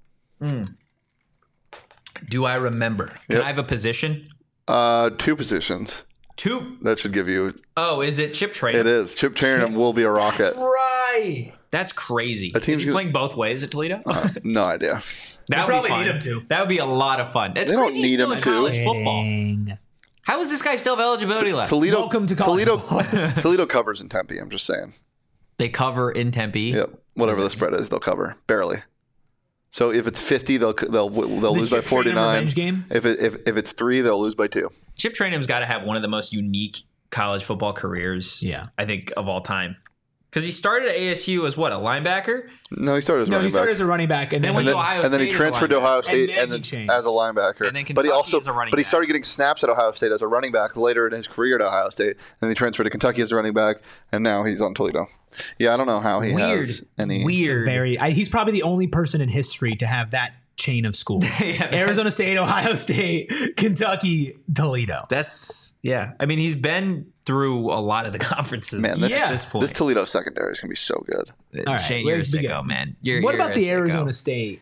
Do I remember? Can Yep. I have a position? 2 positions. 2. That should give you. Oh, is it Chip Trayanum? It is. Chip Trayanum will be a Rocket. Right. That's crazy. team's Is he gonna- playing both ways at Toledo? No idea. That would probably be fun. need him to. That would be a lot of fun. It's They don't crazy he's need still him in to. college football. Dang. How is this guy still have eligibility left? Toledo. Welcome to college Toledo. Toledo covers in Tempe. I'm just saying. They cover in Tempe. Yep. Whatever the spread is, they'll cover barely. So if it's 50, they'll lose by Chip Trayanum 49. revenge game? If it's 3, they'll lose by 2. Chip Trayanum's got to have one of the most unique college football careers, Yeah. I think, of all time. Because he started at ASU as what, a linebacker? No, he started as No, running he started back. as a running back, and then went and to then, Ohio and then he State as a transferred to Ohio linebacker. State And then and he then changed. as a linebacker. And then but he Kentucky as a running but he back. started getting snaps at Ohio State as a running back later in his career at Ohio State. And he transferred to Kentucky as a running back, and now he's on Toledo. Yeah, I don't know how he has any. Weird. he's probably the only person in history to have that chain of schools. Arizona State, Ohio State, Kentucky, Toledo. I mean, he's been through a lot of the conferences. Man, this, Yeah. at this point. this Toledo secondary is gonna be so good. All right, Shane, you're a we sicko, got- man. What about you're the a sicko. Arizona State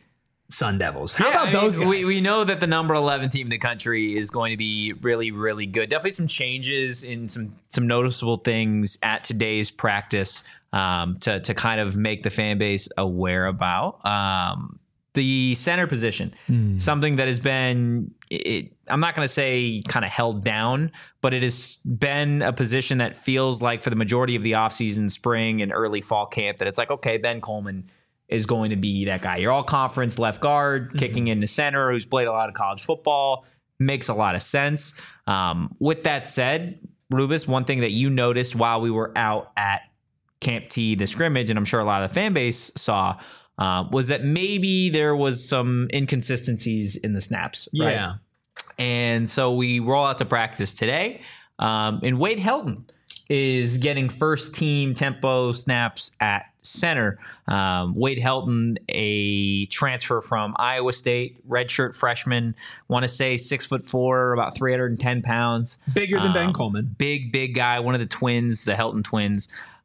Sun Devils. How about those guys? We know that the number 11 team in the country is going to be really, really good. Definitely some changes in some noticeable things at today's practice to kind of make the fan base aware about. The center position, something that has been, I'm not going to say kind of held down, but it has been a position that feels like for the majority of the offseason, spring and early fall camp, that it's like, okay, Ben Coleman is going to be that guy. Your all-conference left guard, kicking into center, who's played a lot of college football. Makes a lot of sense. With that said, Rubus, one thing that you noticed while we were out at Camp T, the scrimmage, and I'm sure a lot of the fan base saw, was that maybe there was some inconsistencies in the snaps. Right? Yeah. And so we roll out to practice today, and Wade Helton is getting first team tempo snaps at center. Wade Helton, a transfer from Iowa State, redshirt freshman, want to say 6'4", about 310 pounds. Bigger than Ben Coleman. Big guy, one of the twins, the Helton twins.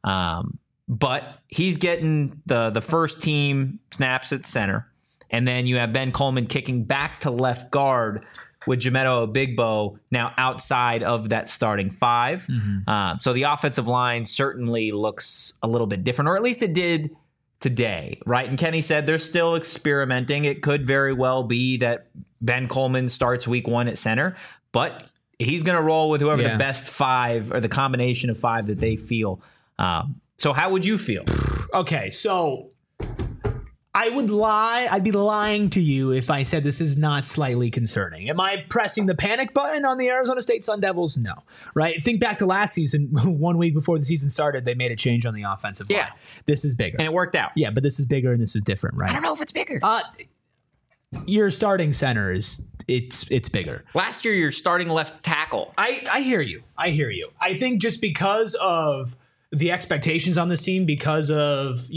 But he's getting the first team snaps at center. And then you have Ben Coleman kicking back to left guard with Jameto Obigbo now outside of that starting five. So the offensive line certainly looks a little bit different, or at least it did today, right? And Kenny said they're still experimenting. It could very well be that Ben Coleman starts week 1 at center, but he's going to roll with whoever the best five or the combination of five that they feel. So how would you feel? Okay, so I would lie. I'd be lying to you if I said this is not slightly concerning. Am I pressing the panic button on the Arizona State Sun Devils? No. Right? Think back to last season. 1 week before the season started, they made a change on the offensive line. This is bigger. And it worked out. Yeah, but this is bigger and this is different, right? I don't know if it's bigger. Your starting center it's bigger. Last year, your starting left tackle. I hear you. I think just because of the expectations on this team, because of,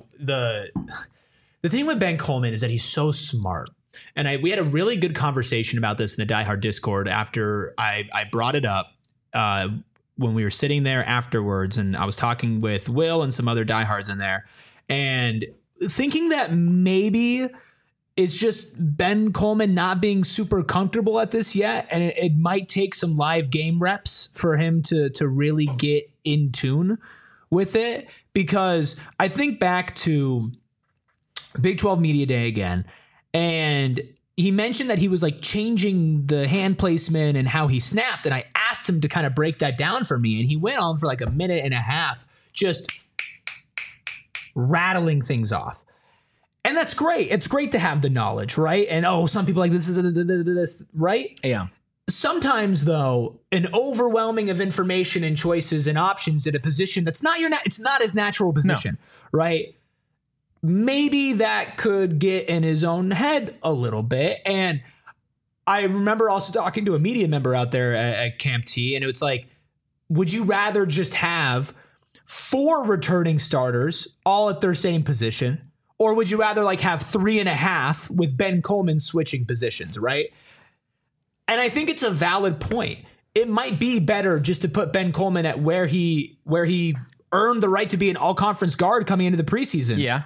the thing with Ben Coleman is that he's so smart. And we had a really good conversation about this in the Die Hard Discord after I brought it up when we were sitting there afterwards. And I was talking with Will and some other diehards in there and thinking that maybe it's just Ben Coleman not being super comfortable at this yet. And it might take some live game reps for him to really get in tune with it. Because I think back to Big 12 Media Day again, and he mentioned that he was like changing the hand placement and how he snapped, and I asked him to kind of break that down for me, and he went on for like a minute and a half just rattling things off. And that's great. It's great to have the knowledge, right? And some people like this, right? Yeah. Sometimes, though, an overwhelming of information and choices and options at a position that's not it's not his natural position, right? Maybe that could get in his own head a little bit. And I remember also talking to a media member out there at Camp T, and it was like, would you rather just have 4 returning starters all at their same position? Or would you rather like have 3.5 with Ben Coleman switching positions, right? And I think it's a valid point. It might be better just to put Ben Coleman at where he earned the right to be an all-conference guard coming into the preseason. Yeah.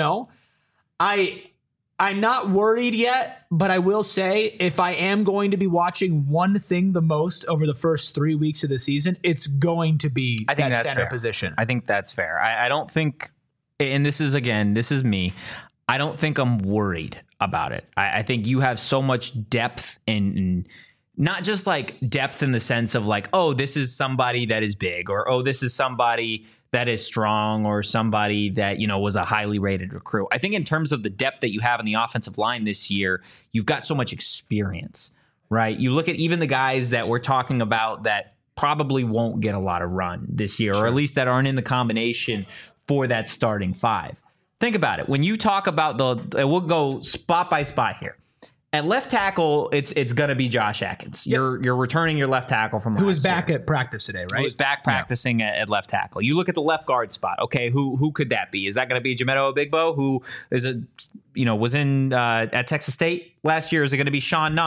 I'm not worried yet, but I will say if I am going to be watching one thing the most over the first 3 weeks of the season, it's going to be that center position. I think that's fair. I don't think, and this is me, I don't think I'm worried about it. I think you have so much depth in not just like depth in the sense of like, oh, this is somebody that is big, or, oh, this is somebody that is strong, or somebody that, was a highly rated recruit. I think in terms of the depth that you have in the offensive line this year, you've got so much experience, right? You look at even the guys that we're talking about that probably won't get a lot of run this year, or at least that aren't in the combination for that starting five. Think about it. When you talk about we'll go spot by spot here. At left tackle, it's going to be Josh Atkins. Yep. You're returning your left tackle from who was back at practice today, right? Who was back practicing at left tackle. You look at the left guard spot. Okay, who could that be? Is that going to be Jameto Obigbo, who is was in at Texas State last year? Is it going to be Sean Na,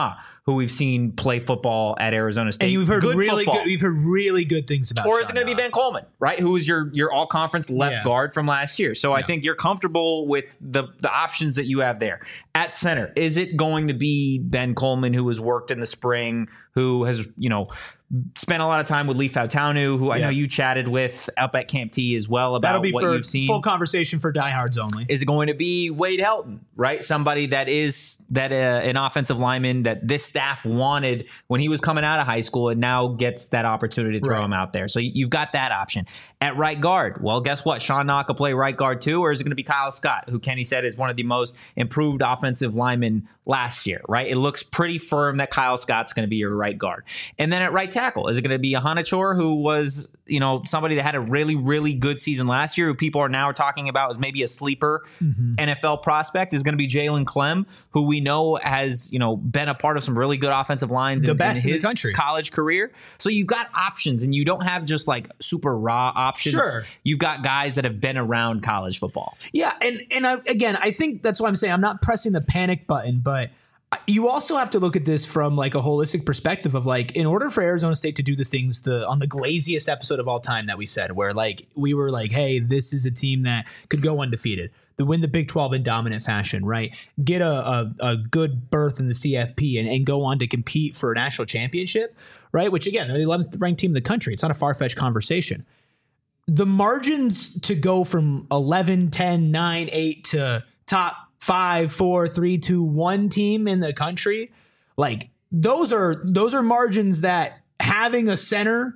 who we've seen play football at Arizona State. And you've heard football. we've heard really good things about. Or is it going to be Ben Coleman, right? Who is your all-conference left guard from last year? So I think you're comfortable with the options that you have there. At center, is it going to be Ben Coleman, who has worked in the spring, who has, spent a lot of time with Lee Fautanu, who I know you chatted with up at Camp T as well about what you've seen. Full conversation for diehards only. Is it going to be Wade Helton, right? Somebody that is an offensive lineman that this staff wanted when he was coming out of high school and now gets that opportunity to throw him out there. So you've got that option. At right guard, well, guess what? Sean Knock will play right guard too, or is it going to be Kyle Scott, who Kenny said is one of the most improved offensive linemen last year, right? It looks pretty firm that Kyle Scott's going to be your right guard. And then at right tackle, is it going to be Ahanachor, who was, somebody that had a really, really good season last year, who people are now talking about as maybe a sleeper NFL prospect? Is going to be Jalen Clem, who we know has, been a part of some really good offensive lines in his country college career. So you've got options, and you don't have just like super raw options. Sure. You've got guys that have been around college football. Yeah, and I think that's why I'm saying I'm not pressing the panic button, but you also have to look at this from like a holistic perspective of like, in order for Arizona State to do the things on the glaziest episode of all time that we said, where like we were like, hey, this is a team that could go undefeated, to win the Big 12 in dominant fashion, right? Get a good berth in the CFP and go on to compete for a national championship, right? Which again, they're the 11th ranked team in the country. It's not a far-fetched conversation. The margins to go from 11, 10, 9, 8 to top 5, 4, 3, 2, 1 team in the country, like those are margins that having a center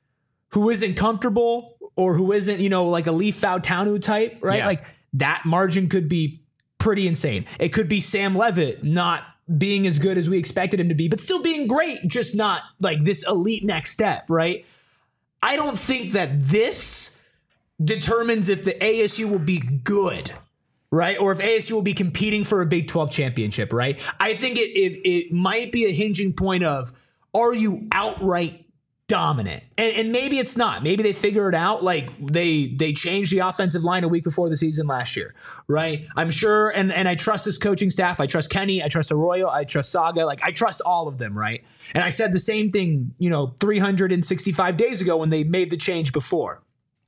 who isn't comfortable or who isn't, like a Lee Fautanu type, right? Like that margin could be pretty insane. It could be Sam Levitt not being as good as we expected him to be, but still being great, just not like this elite next step, right? I don't think that this determines if the ASU will be good, right? Or if ASU will be competing for a Big 12 championship, right? I think it might be a hinging point of, are you outright dominant? And maybe it's not. Maybe they figure it out. Like they changed the offensive line a week before the season last year, right? I'm sure, and I trust this coaching staff. I trust Kenny. I trust Arroyo. I trust Saga. Like I trust all of them, right? And I said the same thing, 365 days ago when they made the change before.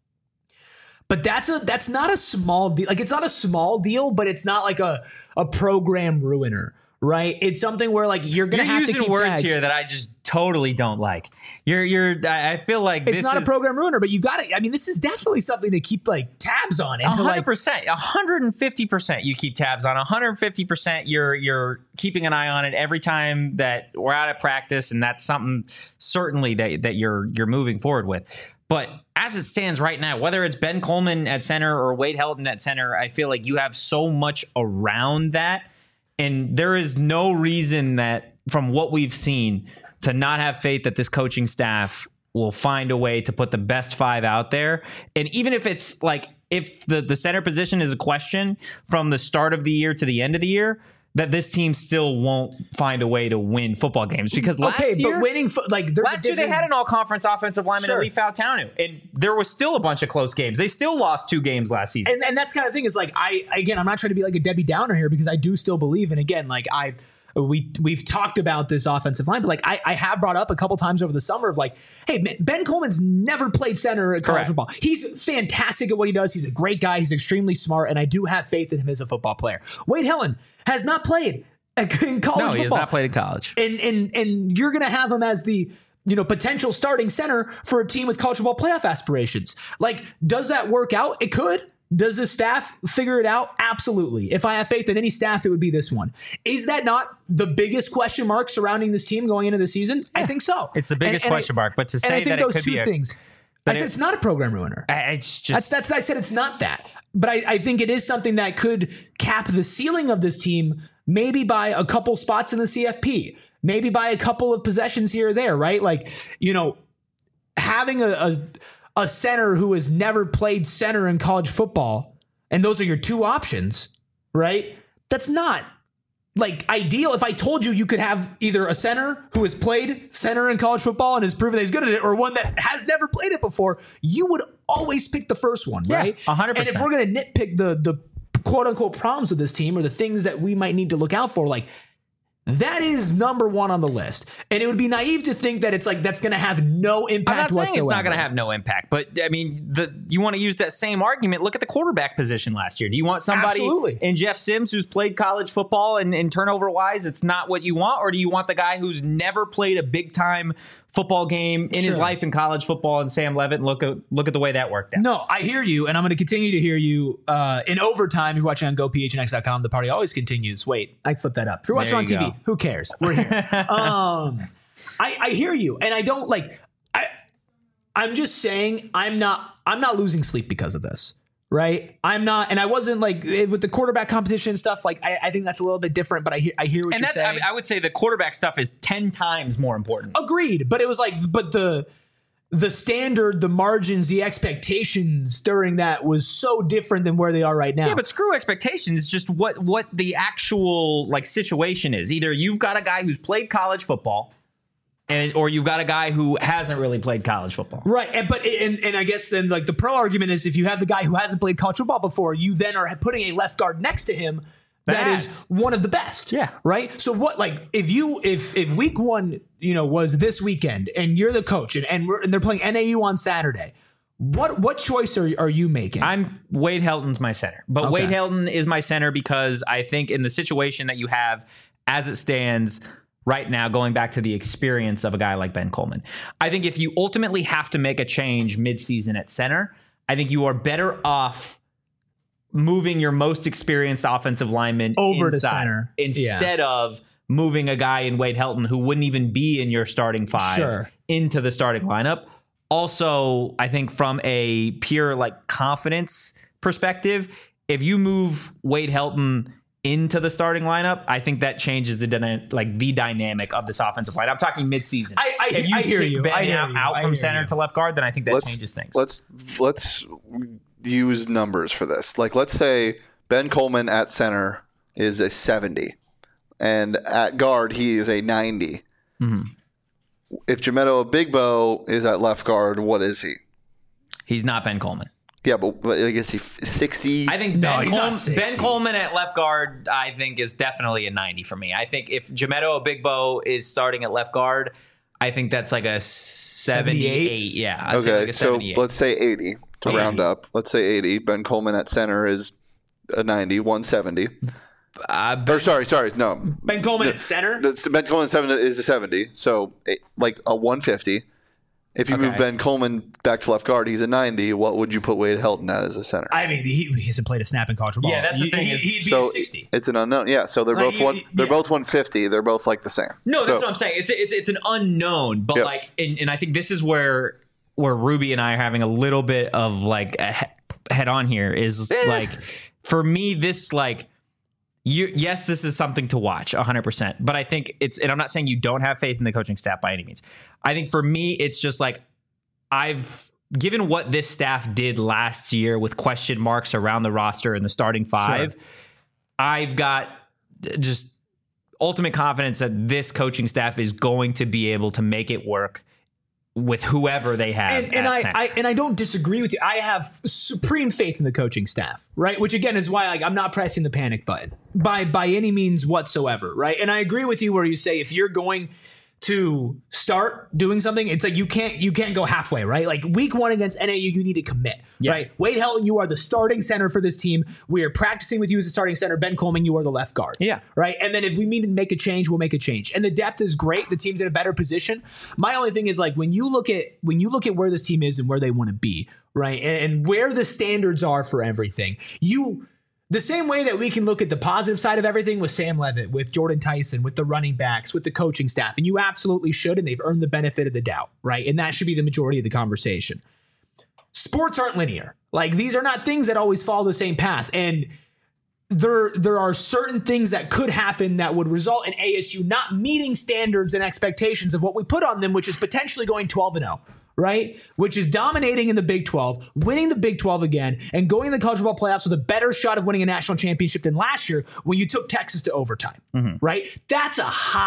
But that's not a small deal. Like it's not a small deal, but it's not like a program ruiner, right? It's something where like you're gonna have to keep using words tags here that I just totally don't like. I feel like it's not a program ruiner, but you got it. I mean, this is definitely something to keep like tabs on. 100%, 150%. You keep tabs on 150%. You're keeping an eye on it every time that we're out of practice, and that's something certainly that you're moving forward with. But as it stands right now, whether it's Ben Coleman at center or Wade Helton at center, I feel like you have so much around that. And there is no reason that, from what we've seen, to not have faith that this coaching staff will find a way to put the best 5 out there. And even if it's like, if the center position is a question from the start of the year to the end of the year, that this team still won't find a way to win football games, because last year, but winning last year they had an all-conference offensive lineman at Lee Fautanu, and there was still a bunch of close games. They still lost 2 games last season, and that's kind of thing is like I'm not trying to be like a Debbie Downer here, because I do still believe, and again, like we've talked about this offensive line, but like I have brought up a couple times over the summer of like, hey, man, Ben Coleman's never played center at college football. He's fantastic at what he does. He's a great guy. He's extremely smart, and I do have faith in him as a football player. Wade Helton has not played in college football. No, he has not played in college. And you're going to have him as the potential starting center for a team with college football playoff aspirations. Like, does that work out? It could. Does the staff figure it out? Absolutely. If I have faith in any staff, it would be this one. Is that not the biggest question mark surrounding this team going into the season? Yeah, I think so. It's the biggest question mark. But to say that it could be things. I said it's not a program ruiner. It's just I said it's not that. But I think it is something that could cap the ceiling of this team, maybe by a couple spots in the CFP, maybe by a couple of possessions here or there, right? Like, having a center who has never played center in college football, and those are your 2 options, right? That's not like ideal. If I told you could have either a center who has played center in college football and has proven that he's good at it, or one that has never played it before, you would always pick the first one, right? 100%. And if we're going to nitpick the quote unquote problems with this team, or the things that we might need to look out for, like that is number one on the list. And it would be naive to think that it's like that's going to have no impact I'm not saying whatsoever. it's not going to have no impact, but I mean, you want to use that same argument. Look at the quarterback position last year. Do you want somebody Absolutely. in Jeff Sims who's played college football and turnover wise, it's not what you want? Or do you want the guy who's never played a big time football game in his life in college football and Sam Levitt? And look at the way that worked out. No, I hear you, and I'm going to continue to hear you in overtime. If you're watching on GoPHNX.com, the party always continues. Wait, I flipped that up. If you're watching There on you TV, who cares? We're here. I hear you, and I don't like. I'm just saying I'm not losing sleep because of this. Right, I'm not, and I wasn't like with the quarterback competition and stuff. Like, I think that's a little bit different. But I hear what And you're saying. I mean, I would say the quarterback stuff is 10 times more important. Agreed, but it was like, but the standard, the margins, the expectations during that was so different than where they are right now. Yeah, but screw expectations. Just what the actual like situation is. Either you've got a guy who's played college football, or you've got a guy who hasn't really played college football. Right, and I guess then like the pro argument is if you have the guy who hasn't played college football before, you then are putting a left guard next to him that is one of the best. Yeah. Right. So what, like, if week one, was this weekend and you're the coach and they're playing NAU on Saturday, what choice are you making? I'm Wade Helton's my center, but Okay. Wade Helton is my center because I think in the situation that you have as it stands right now, going back to the experience of a guy like Ben Coleman, I think if you ultimately have to make a change midseason at center, I think you are better off moving your most experienced offensive lineman Over to inside center. instead of moving a guy in Wade Helton who wouldn't even be in your starting five into the starting lineup. Also, I think from a pure like confidence perspective, if you move Wade Helton into the starting lineup, I think that changes the dynamic of this offensive line. I'm talking midseason. If I hear kick you. Ben I hear out you. from I center hear to left guard, then I think that changes things. Let's use numbers for this. Like, let's say Ben Coleman at center is a 70, and at guard he is a 90. Mm-hmm. If Jamedo Bigbo is at left guard, what is he? He's not Ben Coleman. Yeah, but I guess he's 60. I think No, he's not 60. Ben Coleman at left guard, I think, is definitely a 90 for me. I think if Jamedo Bigbo is starting at left guard, I think that's like a 78. Yeah. I'd say Okay, like a so 78. let's say 80 to round up. Let's say 80. Ben Coleman at center is a 90, 170. Or sorry, no. Ben Coleman at center. Ben Coleman at 7 is a 70, so like a 150. If you move Ben Coleman back to left guard, he's a 90. What would you put Wade Helton at as a center? I mean, he hasn't played a snap in college football. Yeah, that's the thing. He'd be So a 60. it's an unknown. Yeah, so they're Like, both both 150. They're both like the same. No, that's So- what I'm saying. It's an unknown, but Yep. like, and I think this is where Ruby and I are having a little bit of like a head on here is like, for me, this like, yes, this is something to watch 100%, but I think and I'm not saying you don't have faith in the coaching staff by any means. I think for me, it's just like, given what this staff did last year with question marks around the roster and the starting five, I've got just ultimate confidence that this coaching staff is going to be able to make it work with whoever they have. And I don't disagree with you. I have supreme faith in the coaching staff, right? Which again is why I'm not pressing the panic button by any means whatsoever, right? And I agree with you where you say if you're going to start doing something, it's like you can't go halfway, right? Like week one against NAU, you need to commit, right? Wade Helton, you are the starting center for this team. We are practicing with you as a starting center. Ben Coleman, you are the left guard, right? And then if we need to make a change, we'll make a change. And the depth is great. The team's in a better position. My only thing is like when you look at where this team is and where they want to be, right, and where the standards are for everything, the same way that we can look at the positive side of everything with Sam Levitt, with Jordan Tyson, with the running backs, with the coaching staff, and you absolutely should, and they've earned the benefit of the doubt, right? And that should be the majority of the conversation. Sports aren't linear. Like, these are not things that always follow the same path, and there are certain things that could happen that would result in ASU not meeting standards and expectations of what we put on them, which is potentially going 12-0. Right? Which is dominating in the Big 12, winning the Big 12 again, and going to the college football playoffs with a better shot of winning a national championship than last year when you took Texas to overtime. Right? That's a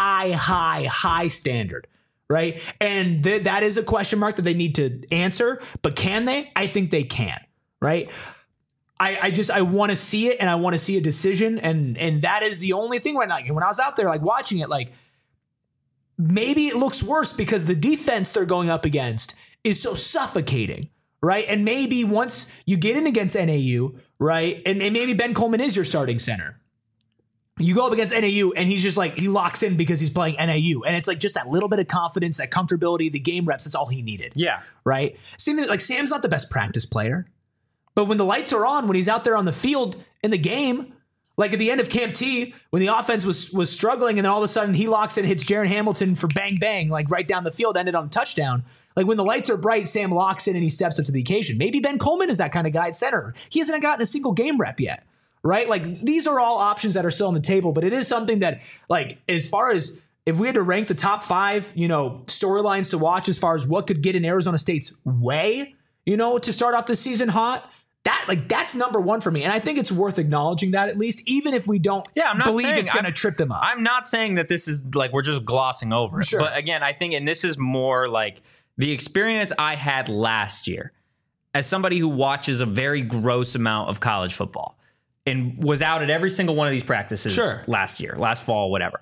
high standard. Right? And that is a question mark that they need to answer. But can they? I think they can. Right? I want to see it, and I want to see a decision, and that is the only thing right now. When I was out there like watching it, like maybe it looks worse because the defense they're going up against is so suffocating, right? And maybe once you get in against NAU, right, and maybe Ben Coleman is your starting center. You go up against NAU and he's just like, he locks in because he's playing NAU. And it's like just that little bit of confidence, that comfortability, the game reps, that's all he needed. Yeah. Right? Same thing, like Sam's not the best practice player. But when the lights are on, when he's out there on the field in the game, like at the end of Camp T, when the offense was struggling and then all of a sudden he locks in, hits Jaron Hamilton for bang, bang, like right down the field, ended on a touchdown. Like when the lights are bright, Sam locks in and he steps up to the occasion. Maybe Ben Coleman is that kind of guy at center. He hasn't gotten a single game rep yet. Right? Like these are all options that are still on the table, but it is something that, like, as far as if we had to rank the top 5, storylines to watch as far as what could get in Arizona State's way, to start off the season hot, that's number 1 for me. And I think it's worth acknowledging that at least, even if we don't believe it's going to trip them up. I'm not saying that this is like we're just glossing over it. Sure. But again, I think, and this is more like the experience I had last year as somebody who watches a very gross amount of college football. And was out at every single one of these practices last fall, whatever.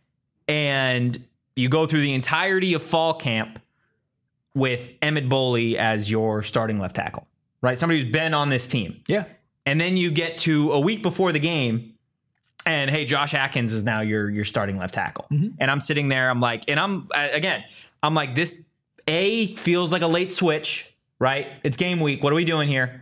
And you go through the entirety of fall camp with Emmett Boley as your starting left tackle, right? Somebody who's been on this team. Yeah. And then you get to a week before the game and, hey, Josh Atkins is now your starting left tackle. Mm-hmm. And I'm sitting there, I'm like, this feels like a late switch, right? It's game week. What are we doing here?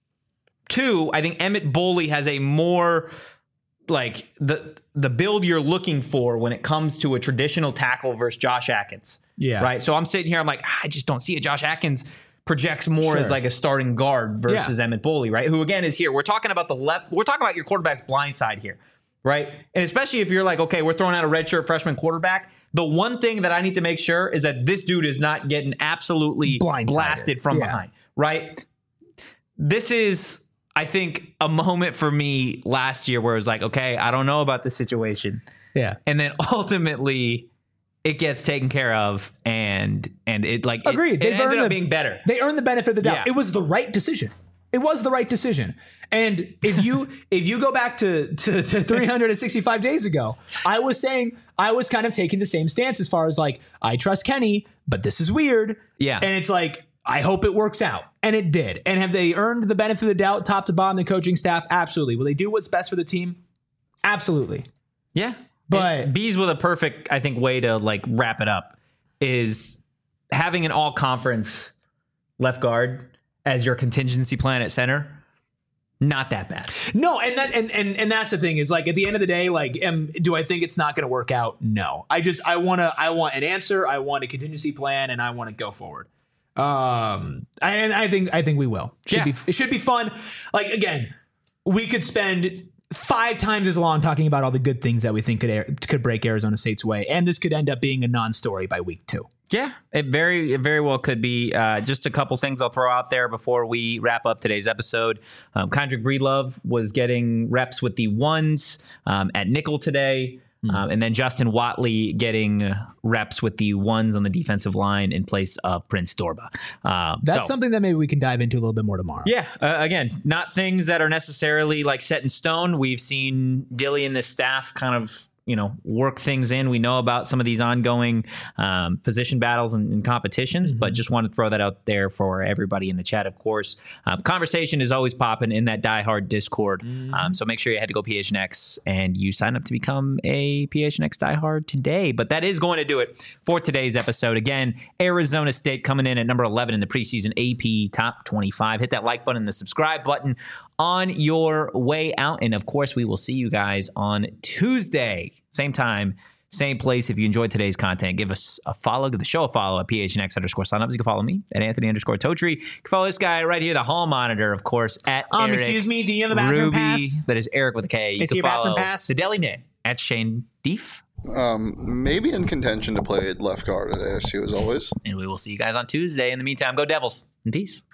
2, I think Emmett Boley has a more like the build you're looking for when it comes to a traditional tackle versus Josh Atkins. Yeah. Right. So I'm sitting here, I'm like, I just don't see it. Josh Atkins projects more as like a starting guard versus Emmett Boley, right? Who again is here. We're talking about we're talking about your quarterback's blind side here, right? And especially if you're like, okay, we're throwing out a redshirt freshman quarterback. The one thing that I need to make sure is that this dude is not getting absolutely blasted from behind, right? This is, I think, a moment for me last year where it was like, okay, I don't know about this situation. Yeah. And then ultimately it gets taken care of and it like, agreed. It ended up being better. They earned the benefit of the doubt. Yeah. It was the right decision. It was the right decision. And if you go back to 365 days ago, I was kind of taking the same stance as far as like, I trust Kenny, but this is weird. Yeah. And it's like, I hope it works out. And it did. And have they earned the benefit of the doubt top to bottom, the coaching staff? Absolutely. Will they do what's best for the team? Absolutely. Yeah. But and Bees with a perfect, I think, way to like wrap it up is having an all conference left guard as your contingency plan at center. Not that bad. No, and that's the thing is like at the end of the day, like, do I think it's not going to work out? No. I want an answer. I want a contingency plan, and I want to go forward. And I think we will. It should be fun. Like again, we could spend 5 times as long talking about all the good things that we think could break Arizona State's way, and this could end up being a non-story by week 2. Yeah, it very well could be. Just a couple things I'll throw out there before we wrap up today's episode. Kendrick Breedlove was getting reps with the ones at nickel today. And then Justin Watley getting reps with the ones on the defensive line in place of Prince Dorba. That's something that maybe we can dive into a little bit more tomorrow. Yeah. Again, not things that are necessarily like set in stone. We've seen Dilly and the staff kind of, work things in. We know about some of these ongoing position battles and competitions, but just want to throw that out there for everybody in the chat, of course. Conversation is always popping in that diehard Discord. So make sure you head to go PHNX and you sign up to become a PHNX diehard today. But that is going to do it for today's episode. Again, Arizona State coming in at number 11 in the preseason AP Top 25. Hit that like button and the subscribe button on your way out. And of course, we will see you guys on Tuesday. Same time, same place. If you enjoyed today's content, give us a follow. Give the show a follow at PHNX_signups. You can follow me at Anthony_Totri. You can follow this guy right here, the hall monitor, of course, at Eric. Excuse me, do you have the bathroom Ruby, pass? That is Eric with a K. You can follow the Deli Knit at Shane Deef. Maybe in contention to play left guard at ASU as always. And we will see you guys on Tuesday. In the meantime, go Devils and peace.